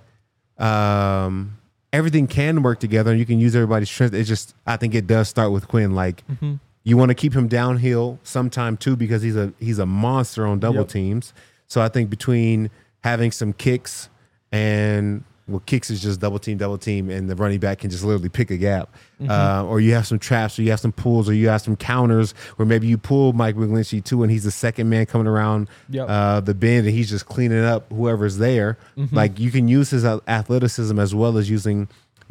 everything can work together, and you can use everybody's strength. It's just I think it does start with Quinn. Like you want to keep him downhill sometime too because he's a monster on double teams. So I think between having some kicks and kicks is just double team, and the running back can just literally pick a gap. Or you have some traps, or you have some pulls, or you have some counters where maybe you pull Mike McGlinchey too, and he's the second man coming around the bend, and he's just cleaning up whoever's there. Like you can use his athleticism as well as using,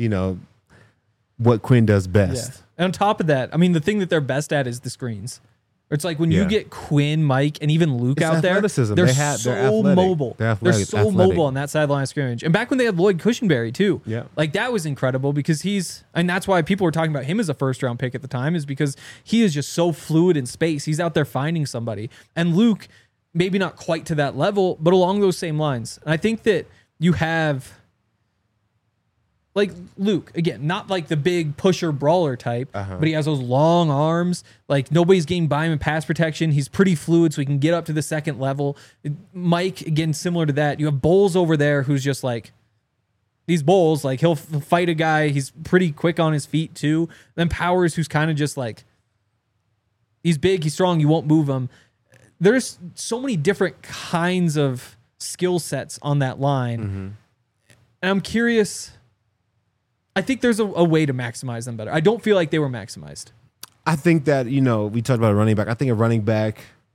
what Quinn does best. Yeah. And on top of that, I mean, the thing that they're best at is the screens. It's like when you get Quinn, Mike, and even Luke out there, athleticism. they're They're so athletic. mobile. They're so mobile on that sideline scrimmage. And back when they had Lloyd Cushenberry too, like that was incredible because and that's why people were talking about him as a first-round pick at the time is because he is just so fluid in space. He's out there finding somebody. And Luke, maybe not quite to that level, but along those same lines. And I think that you have... Like Luke, again, not like the big pusher brawler type, but he has those long arms. Like nobody's getting by him in pass protection. He's pretty fluid, so he can get up to the second level. Mike, again, similar to that. You have Bowles over there who's just like, these Bowles, like he'll fight a guy. He's pretty quick on his feet too. Then Powers, who's kind of just like, he's big, he's strong, you won't move him. There's so many different kinds of skill sets on that line. And I'm curious... I think there's a way to maximize them better. I don't feel like they were maximized. I think that, we talked about a running back. I think a running back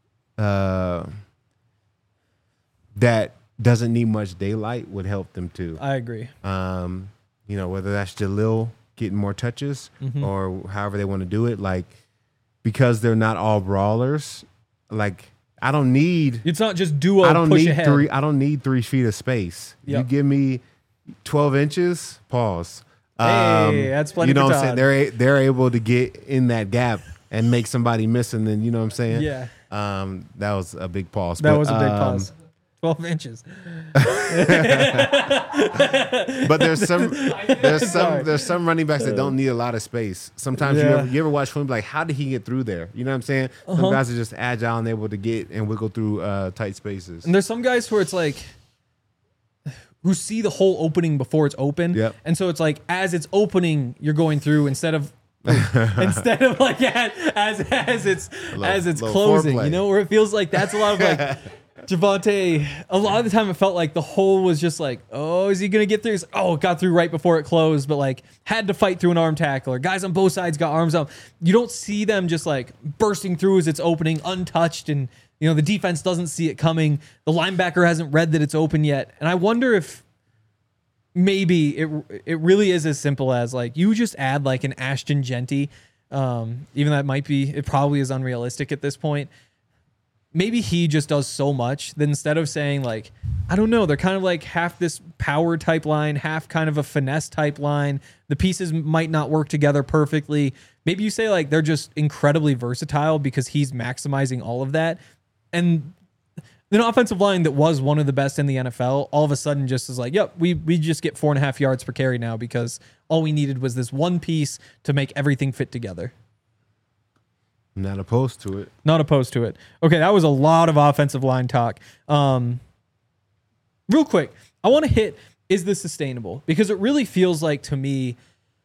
that doesn't need much daylight would help them too. I agree. Whether that's Jalil getting more touches or however they want to do it, like, because they're not all brawlers, like, I don't need. It's not just duo. I don't push need ahead. I don't need 3 feet of space. Yep. You give me 12 inches. Pause. Hey, that's plenty. You know for what I'm Todd. saying? They're able to get in that gap and make somebody miss, and then you know what I'm saying? Yeah. That was a big pause. That was a big pause. 12 inches. But there's some running backs that don't need a lot of space. Sometimes you ever watch film, like, how did he get through there? You know what I'm saying? Some guys are just agile and able to get and wiggle through tight spaces. And there's some guys where it's like, who see the whole opening before it's open. Yep. And so it's like, as it's opening, you're going through instead of like as it's closing, foreplay. where it feels like that's a lot of like Javonte. A lot of the time it felt like the hole was just like, oh, is he going to get through? It's like, oh, it got through right before it closed, but like had to fight through an arm tackle, or guys on both sides got arms up. You don't see them just like bursting through as it's opening untouched, and the defense doesn't see it coming. The linebacker hasn't read that it's open yet. And I wonder if maybe it really is as simple as like you just add like an Ashton Genty, even that it probably is unrealistic at this point. Maybe he just does so much that instead of saying like, I don't know, they're kind of like half this power type line, half kind of a finesse type line. The pieces might not work together perfectly. Maybe you say like they're just incredibly versatile because he's maximizing all of that. And an offensive line that was one of the best in the NFL all of a sudden just is like, yep, we just get 4.5 yards per carry now because all we needed was this one piece to make everything fit together. Not opposed to it. Not opposed to it. Okay, that was a lot of offensive line talk. Real quick, I want to hit, is this sustainable? Because it really feels like, to me,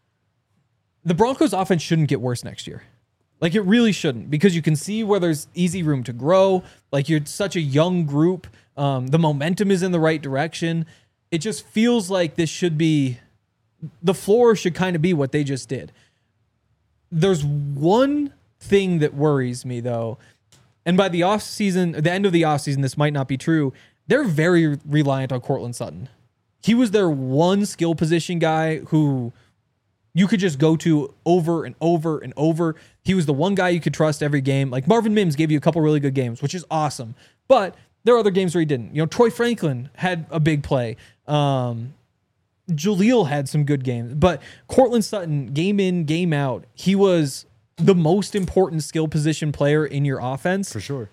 the Broncos offense shouldn't get worse next year. Like, it really shouldn't, because you can see where there's easy room to grow. Like, you're such a young group. The momentum is in the right direction. It just feels like this should be, the floor should kind of be what they just did. There's one thing that worries me, though, and by the offseason, the end of the offseason, this might not be true. They're very reliant on Courtland Sutton. He was their one skill position guy who you could just go to over and over and over. He was the one guy you could trust every game. Like, Marvin Mims gave you a couple really good games, which is awesome. But there are other games where he didn't. Troy Franklin had a big play. Jaleel had some good games. But Courtland Sutton, game in, game out, he was the most important skill position player in your offense. For sure.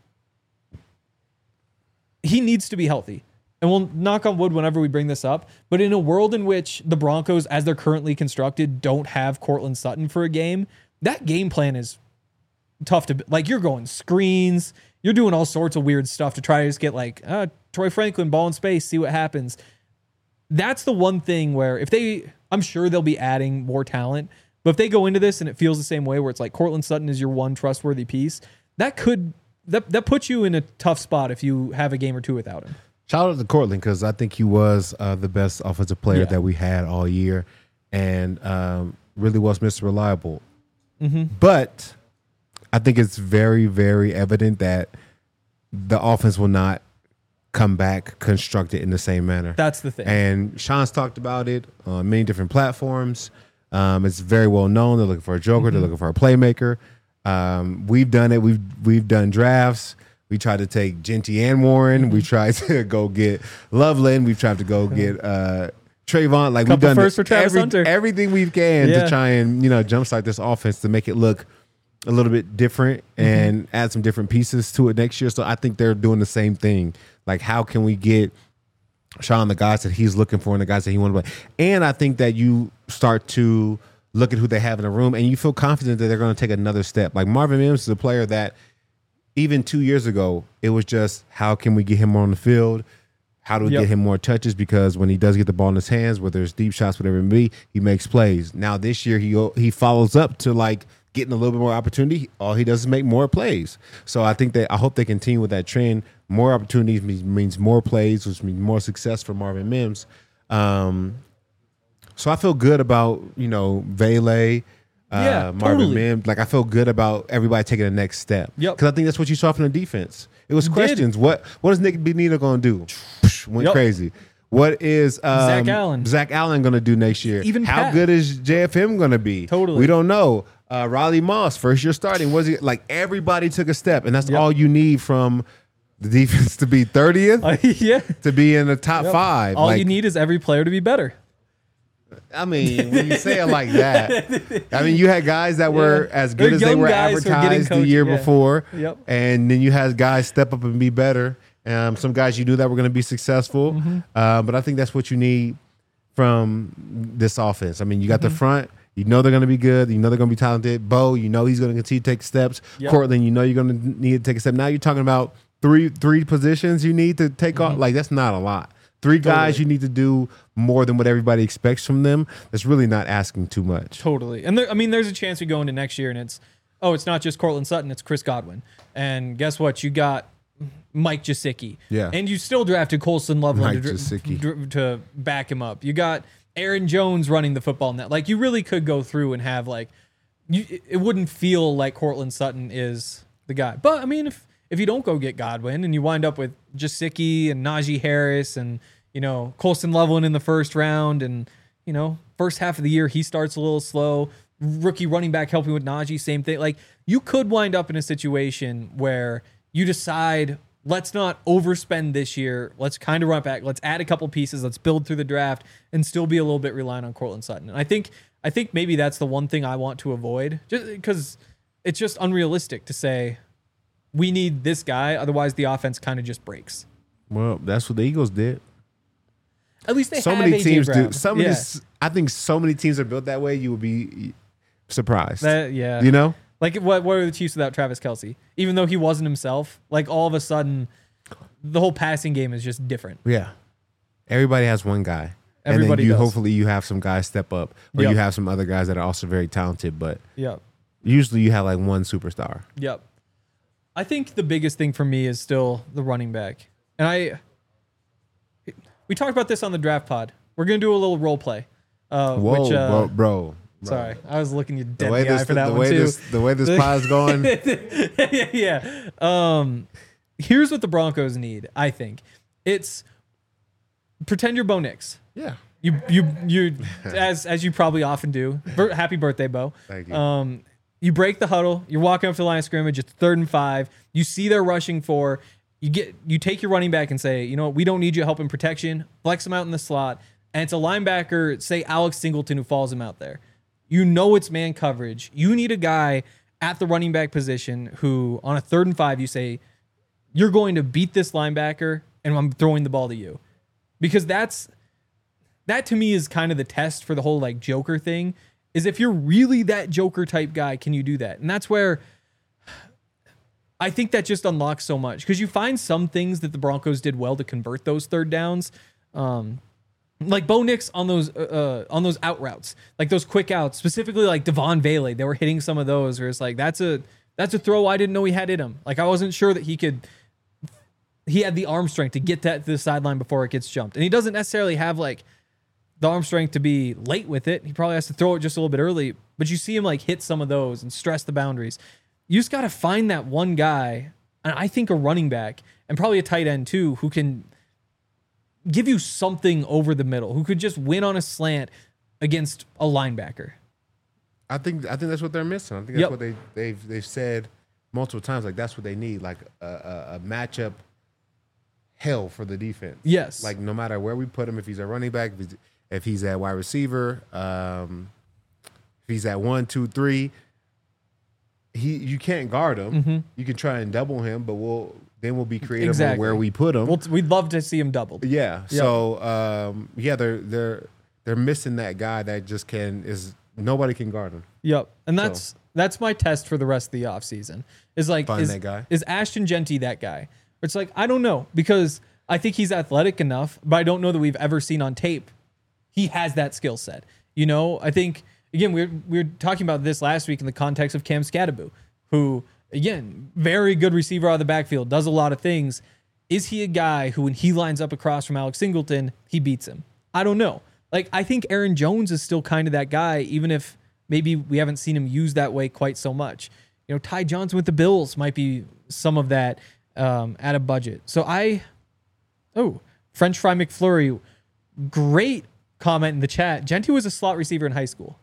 He needs to be healthy. And we'll knock on wood whenever we bring this up. But in a world in which the Broncos, as they're currently constructed, don't have Courtland Sutton for a game, that game plan is tough to... Like, you're going screens. You're doing all sorts of weird stuff to try to just get, like, Troy Franklin, ball in space, see what happens. That's the one thing where if they... I'm sure they'll be adding more talent. But if they go into this and it feels the same way, where it's like Courtland Sutton is your one trustworthy piece, that puts you in a tough spot if you have a game or two without him. Shout out to Courtland, because I think he was the best offensive player that we had all year, and really was Mr. Reliable. Mm-hmm. But I think it's very, very evident that the offense will not come back constructed in the same manner. That's the thing. And Sean's talked about it on many different platforms. It's very well known. They're looking for a joker. They're looking for a playmaker. We've done it. We've done drafts. We tried to take Genty and Warren. We tried to go get Loveland. We've tried to go get Trayvon. Like, we've done first for Travis Hunter. Everything we can to try and jumpstart this offense to make it look a little bit different and add some different pieces to it next year. So I think they're doing the same thing. Like, how can we get Sean the guys that he's looking for and the guys that he wants to play? And I think that you start to look at who they have in the room and you feel confident that they're going to take another step. Like, Marvin Mims is a player that even 2 years ago, it was just, how can we get him on the field? How do we get him more touches? Because when he does get the ball in his hands, whether it's deep shots, whatever it may be, he makes plays. Now this year, he follows up to like getting a little bit more opportunity. All he does is make more plays. So I hope they continue with that trend. More opportunities means more plays, which means more success for Marvin Mims. So I feel good about, Vele, Yeah, Marvin totally. Mims. Like I feel good about everybody taking the next step. Yep. Because I think that's what you saw from the defense. It was Did. questions. What is Nick Benito going to do? Went Yep. crazy. What is Zach Allen. going to do next year? Even how Pat. good is JFM going to be? Totally. We don't know. Riley Moss, first year starting. Was he like everybody took a step, and that's Yep. all you need from the defense to be 30th, Yeah. to be in the top 5. All Like, you need is every player to be better. I mean, when you say it like that, I mean, you had guys that were as good They're as they young were guys who are getting advertised the coached, year yeah. before. Yep. And then you had guys step up and be better. Some guys you knew that were going to be successful. Mm-hmm. But I think that's what you need from this offense. I mean, you got Mm-hmm. the front. You know they're going to be good. You know they're going to be talented. Bo, you know he's going to continue to take steps. Yep. Cortland, you know you're going to need to take a step. Now you're talking about three positions you need to take Mm-hmm. off. Like, that's not a lot. 3 guys you need to do more than what everybody expects from them. That's really not asking too much. Totally. And there's a chance we go into next year and it's not just Cortland Sutton, it's Chris Godwin. And guess what? You got Mike Gesicki. Yeah. And you still drafted Colson Loveland Mike Gesicki. to back him up. You got Aaron Jones running the football net. Like, you really could go through and have, like, it wouldn't feel like Cortland Sutton is the guy. But, I mean, if you don't go get Godwin and you wind up with Gesicki and Najee Harris and, Colson Loveland in the first round and, first half of the year he starts a little slow. Rookie running back helping with Najee, same thing. Like, you could wind up in a situation where you decide, let's not overspend this year. Let's kind of run it back. Let's add a couple pieces. Let's build through the draft and still be a little bit reliant on Cortland Sutton. And I think maybe that's the one thing I want to avoid, just because it's just unrealistic to say we need this guy. Otherwise, the offense kind of just breaks. Well, that's what the Eagles did. At least they So have many AJ teams Brown. do. I think so many teams are built that way. You would be surprised. Yeah. You know? Like, what are the Chiefs without Travis Kelce? Even though he wasn't himself, like, all of a sudden, the whole passing game is just different. Yeah. Everybody has one guy. Everybody and then does. hopefully you have some guys step up, or Yep. you have some other guys that are also very talented, but Yep. usually you have like one superstar. Yep. I think the biggest thing for me is still the running back. And we talked about this on the draft pod. We're going to do a little role play. Whoa, bro. Sorry, I was looking you dead The way in the eye this, for that the one way too. the way this pod's going, Yeah. Here's what the Broncos need, I think. It's pretend you're Bo Nix. yeah. You as you probably often do. Happy birthday, Bo. Thank you. You break the huddle. You're walking up to the line of scrimmage. It's 3rd and 5. You see they're rushing for. You take your running back and say, you know what, we don't need you help in protection. Flex him out in the slot. And it's a linebacker, say Alex Singleton, who falls him out there. You know it's man coverage. You need a guy at the running back position who, on a 3rd and 5, you say, you're going to beat this linebacker, and I'm throwing the ball to you. Because that to me is kind of the test for the whole like Joker thing, is if you're really that Joker type guy, can you do that? And that's where I think that just unlocks so much, because you find some things that the Broncos did well to convert those 3rd downs. Like Bo Nix on those out routes, like those quick outs, specifically like Devon Vele, they were hitting some of those where it's like, that's a throw I didn't know he had in him. Like, I wasn't sure that he had the arm strength to get that to the sideline before it gets jumped. And he doesn't necessarily have like the arm strength to be late with it. He probably has to throw it just a little bit early, but you see him like hit some of those and stress the boundaries. You just got to find that one guy, and I think a running back and probably a tight end too, who can give you something over the middle, who could just win on a slant against a linebacker. I think that's what they're missing. I think that's what they've said multiple times. Like, that's what they need, like a matchup hell for the defense. Yes. Like, no matter where we put him, if he's a running back, if he's at wide receiver, if he's at 1, 2, 3, you can't guard him. Mm-hmm. You can try and double him, but we'll be creative Exactly. on where we put him. We'd love to see him doubled. Yeah. Yep. So they're missing that guy that just nobody can guard him. Yep. And that's my test for the rest of the offseason. Is like, Find that guy. Is Ashton Genty that guy? It's like, I don't know, because I think he's athletic enough, but I don't know that we've ever seen on tape he has that skill set. You know, I think, again, we were talking about this last week in the context of Cam Scadaboo, who, again, very good receiver out of the backfield, does a lot of things. Is he a guy who, when he lines up across from Alex Singleton, he beats him? I don't know. Like, I think Aaron Jones is still kind of that guy, even if maybe we haven't seen him used that way quite so much. You know, Ty Johnson with the Bills might be some of that at a budget. So French Fry McFlurry, great comment in the chat. Genty was a slot receiver in high school.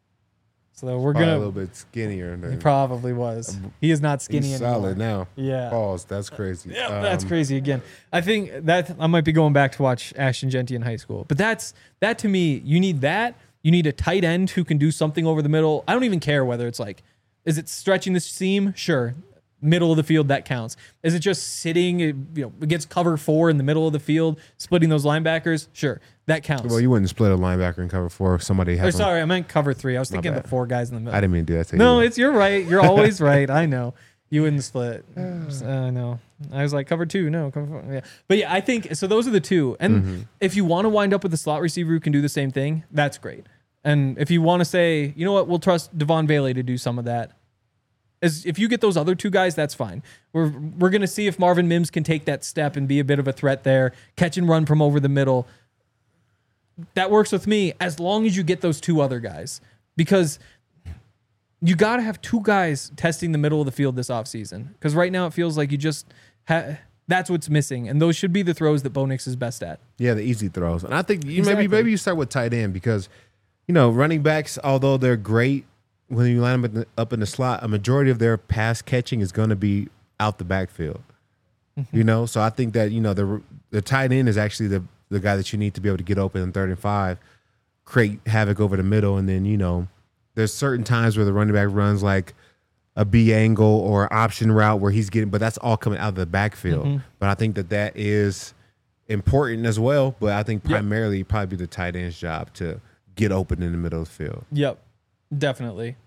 So we're Probably going a little bit skinnier. He probably was. He is not skinny He's anymore. solid now. Yeah. Pause. That's crazy. Yeah, that's crazy again. I think that I might be going back to watch Ashton Genty in high school. But that to me, you need that. You need a tight end who can do something over the middle. I don't even care whether it's like, is it stretching the seam? Sure. Middle of the field, that counts. Is it just sitting, against cover 4 in the middle of the field, splitting those linebackers? Sure. That counts. Well, you wouldn't split a linebacker and cover 4 if somebody has. Sorry, I meant cover 3. I was thinking of the 4 guys in the middle. I didn't mean to do that to you. No, you're right. You're always right. I know. You wouldn't split. I know. I was like, cover 2. No, cover 4. Yeah. But yeah, I think, so those are the two. And if you want to wind up with a slot receiver who can do the same thing, that's great. And if you want to say, you know what, we'll trust Devon Bailey to do some of that. If you get those other 2 guys, that's fine. We're going to see if Marvin Mims can take that step and be a bit of a threat there, catch and run from over the middle. That works with me as long as you get those 2 other guys, because you got to have 2 guys testing the middle of the field this offseason, because right now it feels like you just that's what's missing, and those should be the throws that Bo Nix is best at. Yeah, the easy throws. And I think Exactly. maybe you start with tight end because, running backs, although they're great, when you line them up in the slot, a majority of their pass catching is going to be out the backfield. So I think that the tight end is actually the guy that you need to be able to get open in 3rd and 5, create havoc over the middle, and then there's certain times where the running back runs like a B angle or option route where he's getting, but that's all coming out of the backfield. But I think that is important as well. But I think primarily probably the tight end's job to get open in the middle of the field. Yep. Definitely.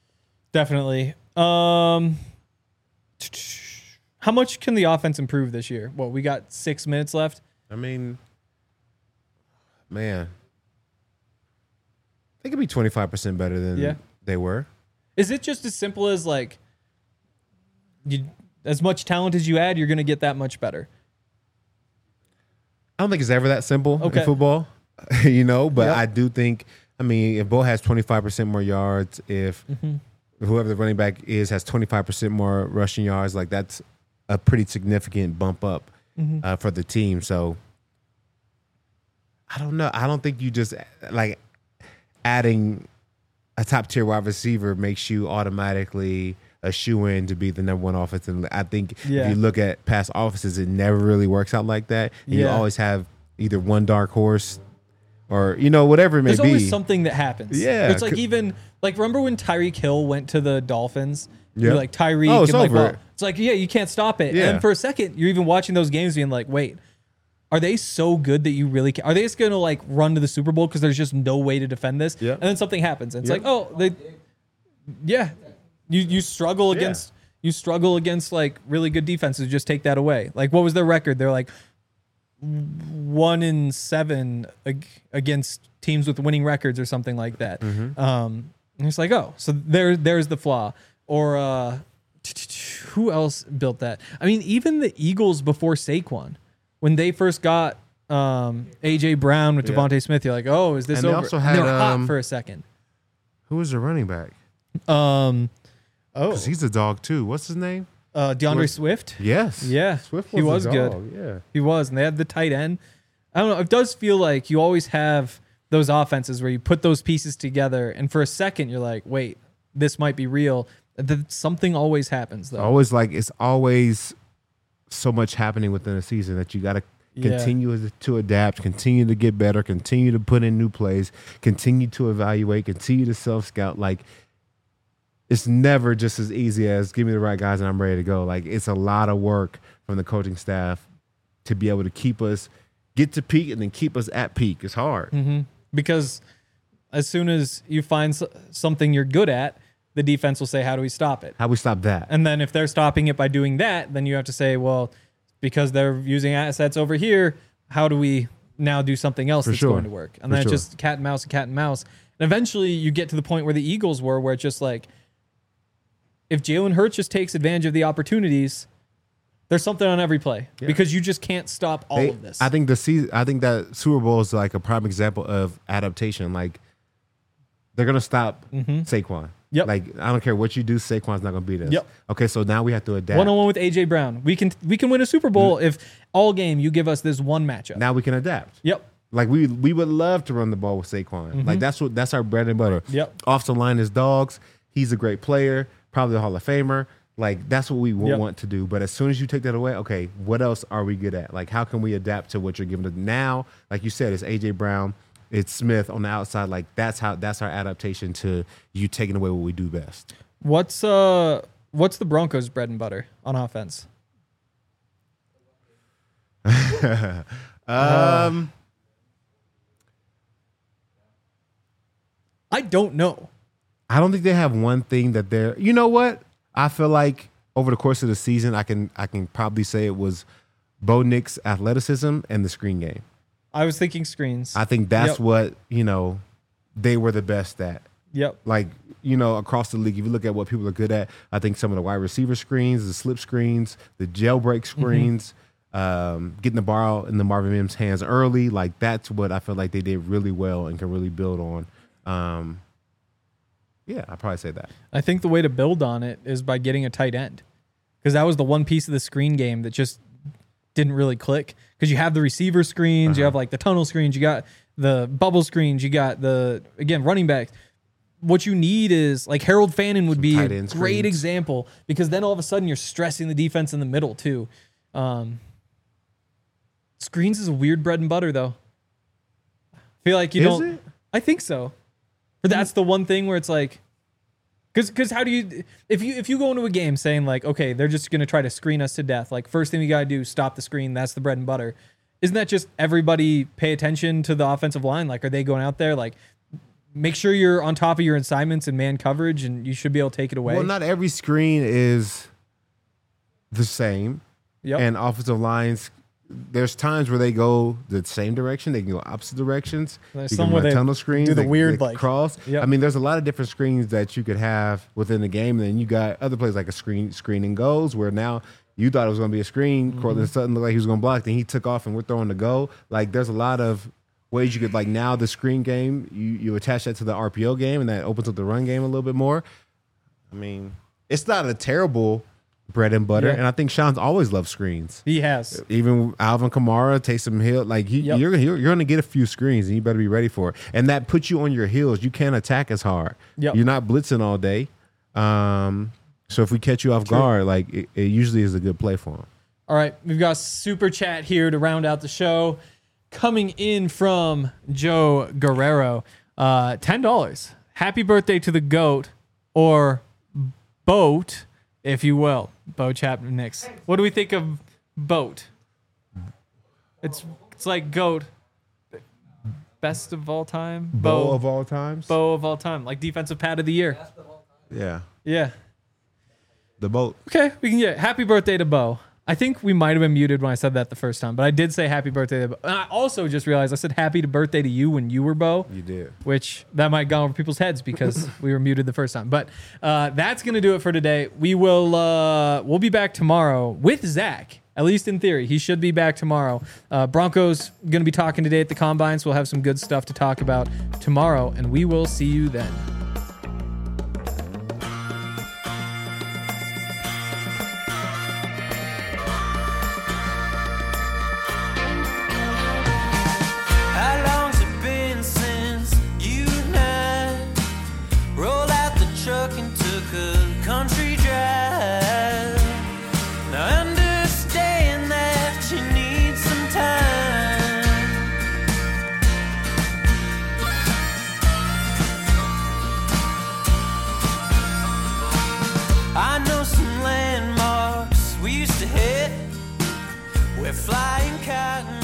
How much can the offense improve this year? Well, we got 6 minutes left. I mean, man, they could be 25% better than they were. Is it just as simple as like, as much talent as you add, you're going to get that much better? I don't think it's ever that simple Okay. in football, but Yep. I do think, if Bo has 25% more yards, if whoever the running back has 25% more rushing yards, like that's a pretty significant bump up for the team. So I don't know. I don't think you just like adding a top tier wide receiver makes you automatically a shoe-in to be the number 1 offense. And I think if you look at past offenses, it never really works out like that. And you always have either one dark horse or, whatever it may There's be. always something that happens. Yeah. It's like remember when Tyreek Hill went to the Dolphins? Yeah. You're like, Tyreek. Oh, it's and over. it's like, yeah, you can't stop it. Yeah. And for a second, you're even watching those games being like, wait, are they so good that you really are they just going to like run to the Super Bowl because there's just no way to defend this? Yeah. And then something happens. And it's Yeah. like, you struggle against like really good defenses. Just take that away. Like, what was their record? They're like 1-7 against teams with winning records or something like that. And it's like, so there's the flaw. Or who else built that? I mean, even the Eagles before Saquon, when they first got AJ Brown with Devontae Smith, you're like, oh, is this And they over? also And they were had, hot for a second. Who was the running back? Because he's a dog too. What's his name? DeAndre Swift. Yes. Yeah, Swift he was a good. dog. Yeah. He was, and they had the tight end. I don't know. It does feel like you always have those offenses where you put those pieces together, and for a second you're like, wait, this might be real. Something always happens though. It's always so much happening within a season that you got to continue to adapt, continue to get better, continue to put in new plays, continue to evaluate, continue to self-scout. Like, it's never just as easy as give me the right guys and I'm ready to go. Like, it's a lot of work from the coaching staff to be able to keep us get to peak and then keep us at peak. It's hard. Because as soon as you find something you're good at, the defense will say, how do we stop it? How we stop that? And then if they're stopping it by doing that, then you have to say, well, because they're using assets over here, how do we now do something else that's going to work? And then it's just cat and mouse and cat and mouse. And eventually you get to the point where the Eagles were, where it's just like, if Jalen Hurts just takes advantage of the opportunities, There's something on every play because you just can't stop all of this. I think that Super Bowl is like a prime example of adaptation. Like they're gonna stop Saquon. Yep. Like I don't care what you do, Saquon's not gonna beat us. Yep. Okay, so now we have to adapt. 1-on-1 with AJ Brown. We can win a Super Bowl if all game you give us this one matchup. Now we can adapt. Yep. Like we would love to run the ball with Saquon. Like that's our bread and butter. Yep. Offensive line is dogs. He's a great player, probably a Hall of Famer. Like that's what we want to do. But as soon as you take that away, okay, what else are we good at? Like how can we adapt to what you're giving us now? Like you said, it's AJ Brown, it's Smith on the outside. Like that's our adaptation to you taking away what we do best. What's the Broncos' bread and butter on offense? I don't know. I don't think they have one thing that they're. You know what? I feel like over the course of the season, I can probably say it was Bo Nix's athleticism and the screen game. I was thinking screens. I think that's what they were the best at. Yep. Like across the league, if you look at what people are good at, I think some of the wide receiver screens, the slip screens, the jailbreak screens, getting the ball in the Marvin Mims' hands early, like that's what I feel like they did really well and can really build on. Yeah, I'd probably say that. I think the way to build on it is by getting a tight end, because that was the one piece of the screen game that just didn't really click. Because you have the receiver screens, you have like the tunnel screens, you got the bubble screens, you got the running backs. What you need is like Harold Fannin would be a great example, because then all of a sudden you're stressing the defense in the middle too. Screens is a weird bread and butter though. I feel like you don't. Is it? I think so. But that's the one thing where it's like, because how do you, if you go into a game saying like, okay, they're just going to try to screen us to death. Like first thing you got to do, stop the screen. That's the bread and butter. Isn't that just everybody pay attention to the offensive line? Like, are they going out there? Like, make sure you're on top of your assignments and man coverage, and you should be able to take it away. Well, not every screen is the same. Yep. And offensive lines, there's times where they go the same direction. They can go opposite directions. There's You some can where run they tunnel screens. do the they weird, can like, cross. yep. I mean, there's a lot of different screens that you could have within the game. And then you got other plays like a screen and goes, where now you thought it was going to be a screen. Cortland Sutton looked like he was going to block. Then he took off and we're throwing the go. Like there's a lot of ways you could, like now the screen game, you attach that to the RPO game, and that opens up the run game a little bit more. I mean, it's not a terrible bread and butter. Yeah. And I think Sean's always loved screens. He has. Even Alvin Kamara, Taysom Hill, like you're going to get a few screens, and you better be ready for it. And that puts you on your heels. You can't attack as hard. Yep. You're not blitzing all day. So if we catch you off guard, like it usually is a good play for him. All right, we've got super chat here to round out the show. Coming in from Joe Guerrero, $10. Happy birthday to the GOAT, or BOAT, if you will. Bo Chapman Nix. What do we think of BOAT? It's like GOAT. Best of all time? Bo of all times? Bo of all time. Like defensive pad of the year. Yeah. Yeah. The boat. Okay, we can get happy birthday to Bo. I think we might have been muted when I said that the first time, but I did say happy birthday to Bo. And I also just realized I said happy birthday to you when you were Bo. You did. Which that might go over people's heads because we were muted the first time. But that's going to do it for today. We'll be back tomorrow with Zach. At least in theory, he should be back tomorrow. Broncos going to be talking today at the Combine, so we'll have some good stuff to talk about tomorrow, and we will see you then. How long's it been since you and I rolled out the truck and took a country drive? Now I understand that you need some time. I know some landmarks we used to hit where flying cotton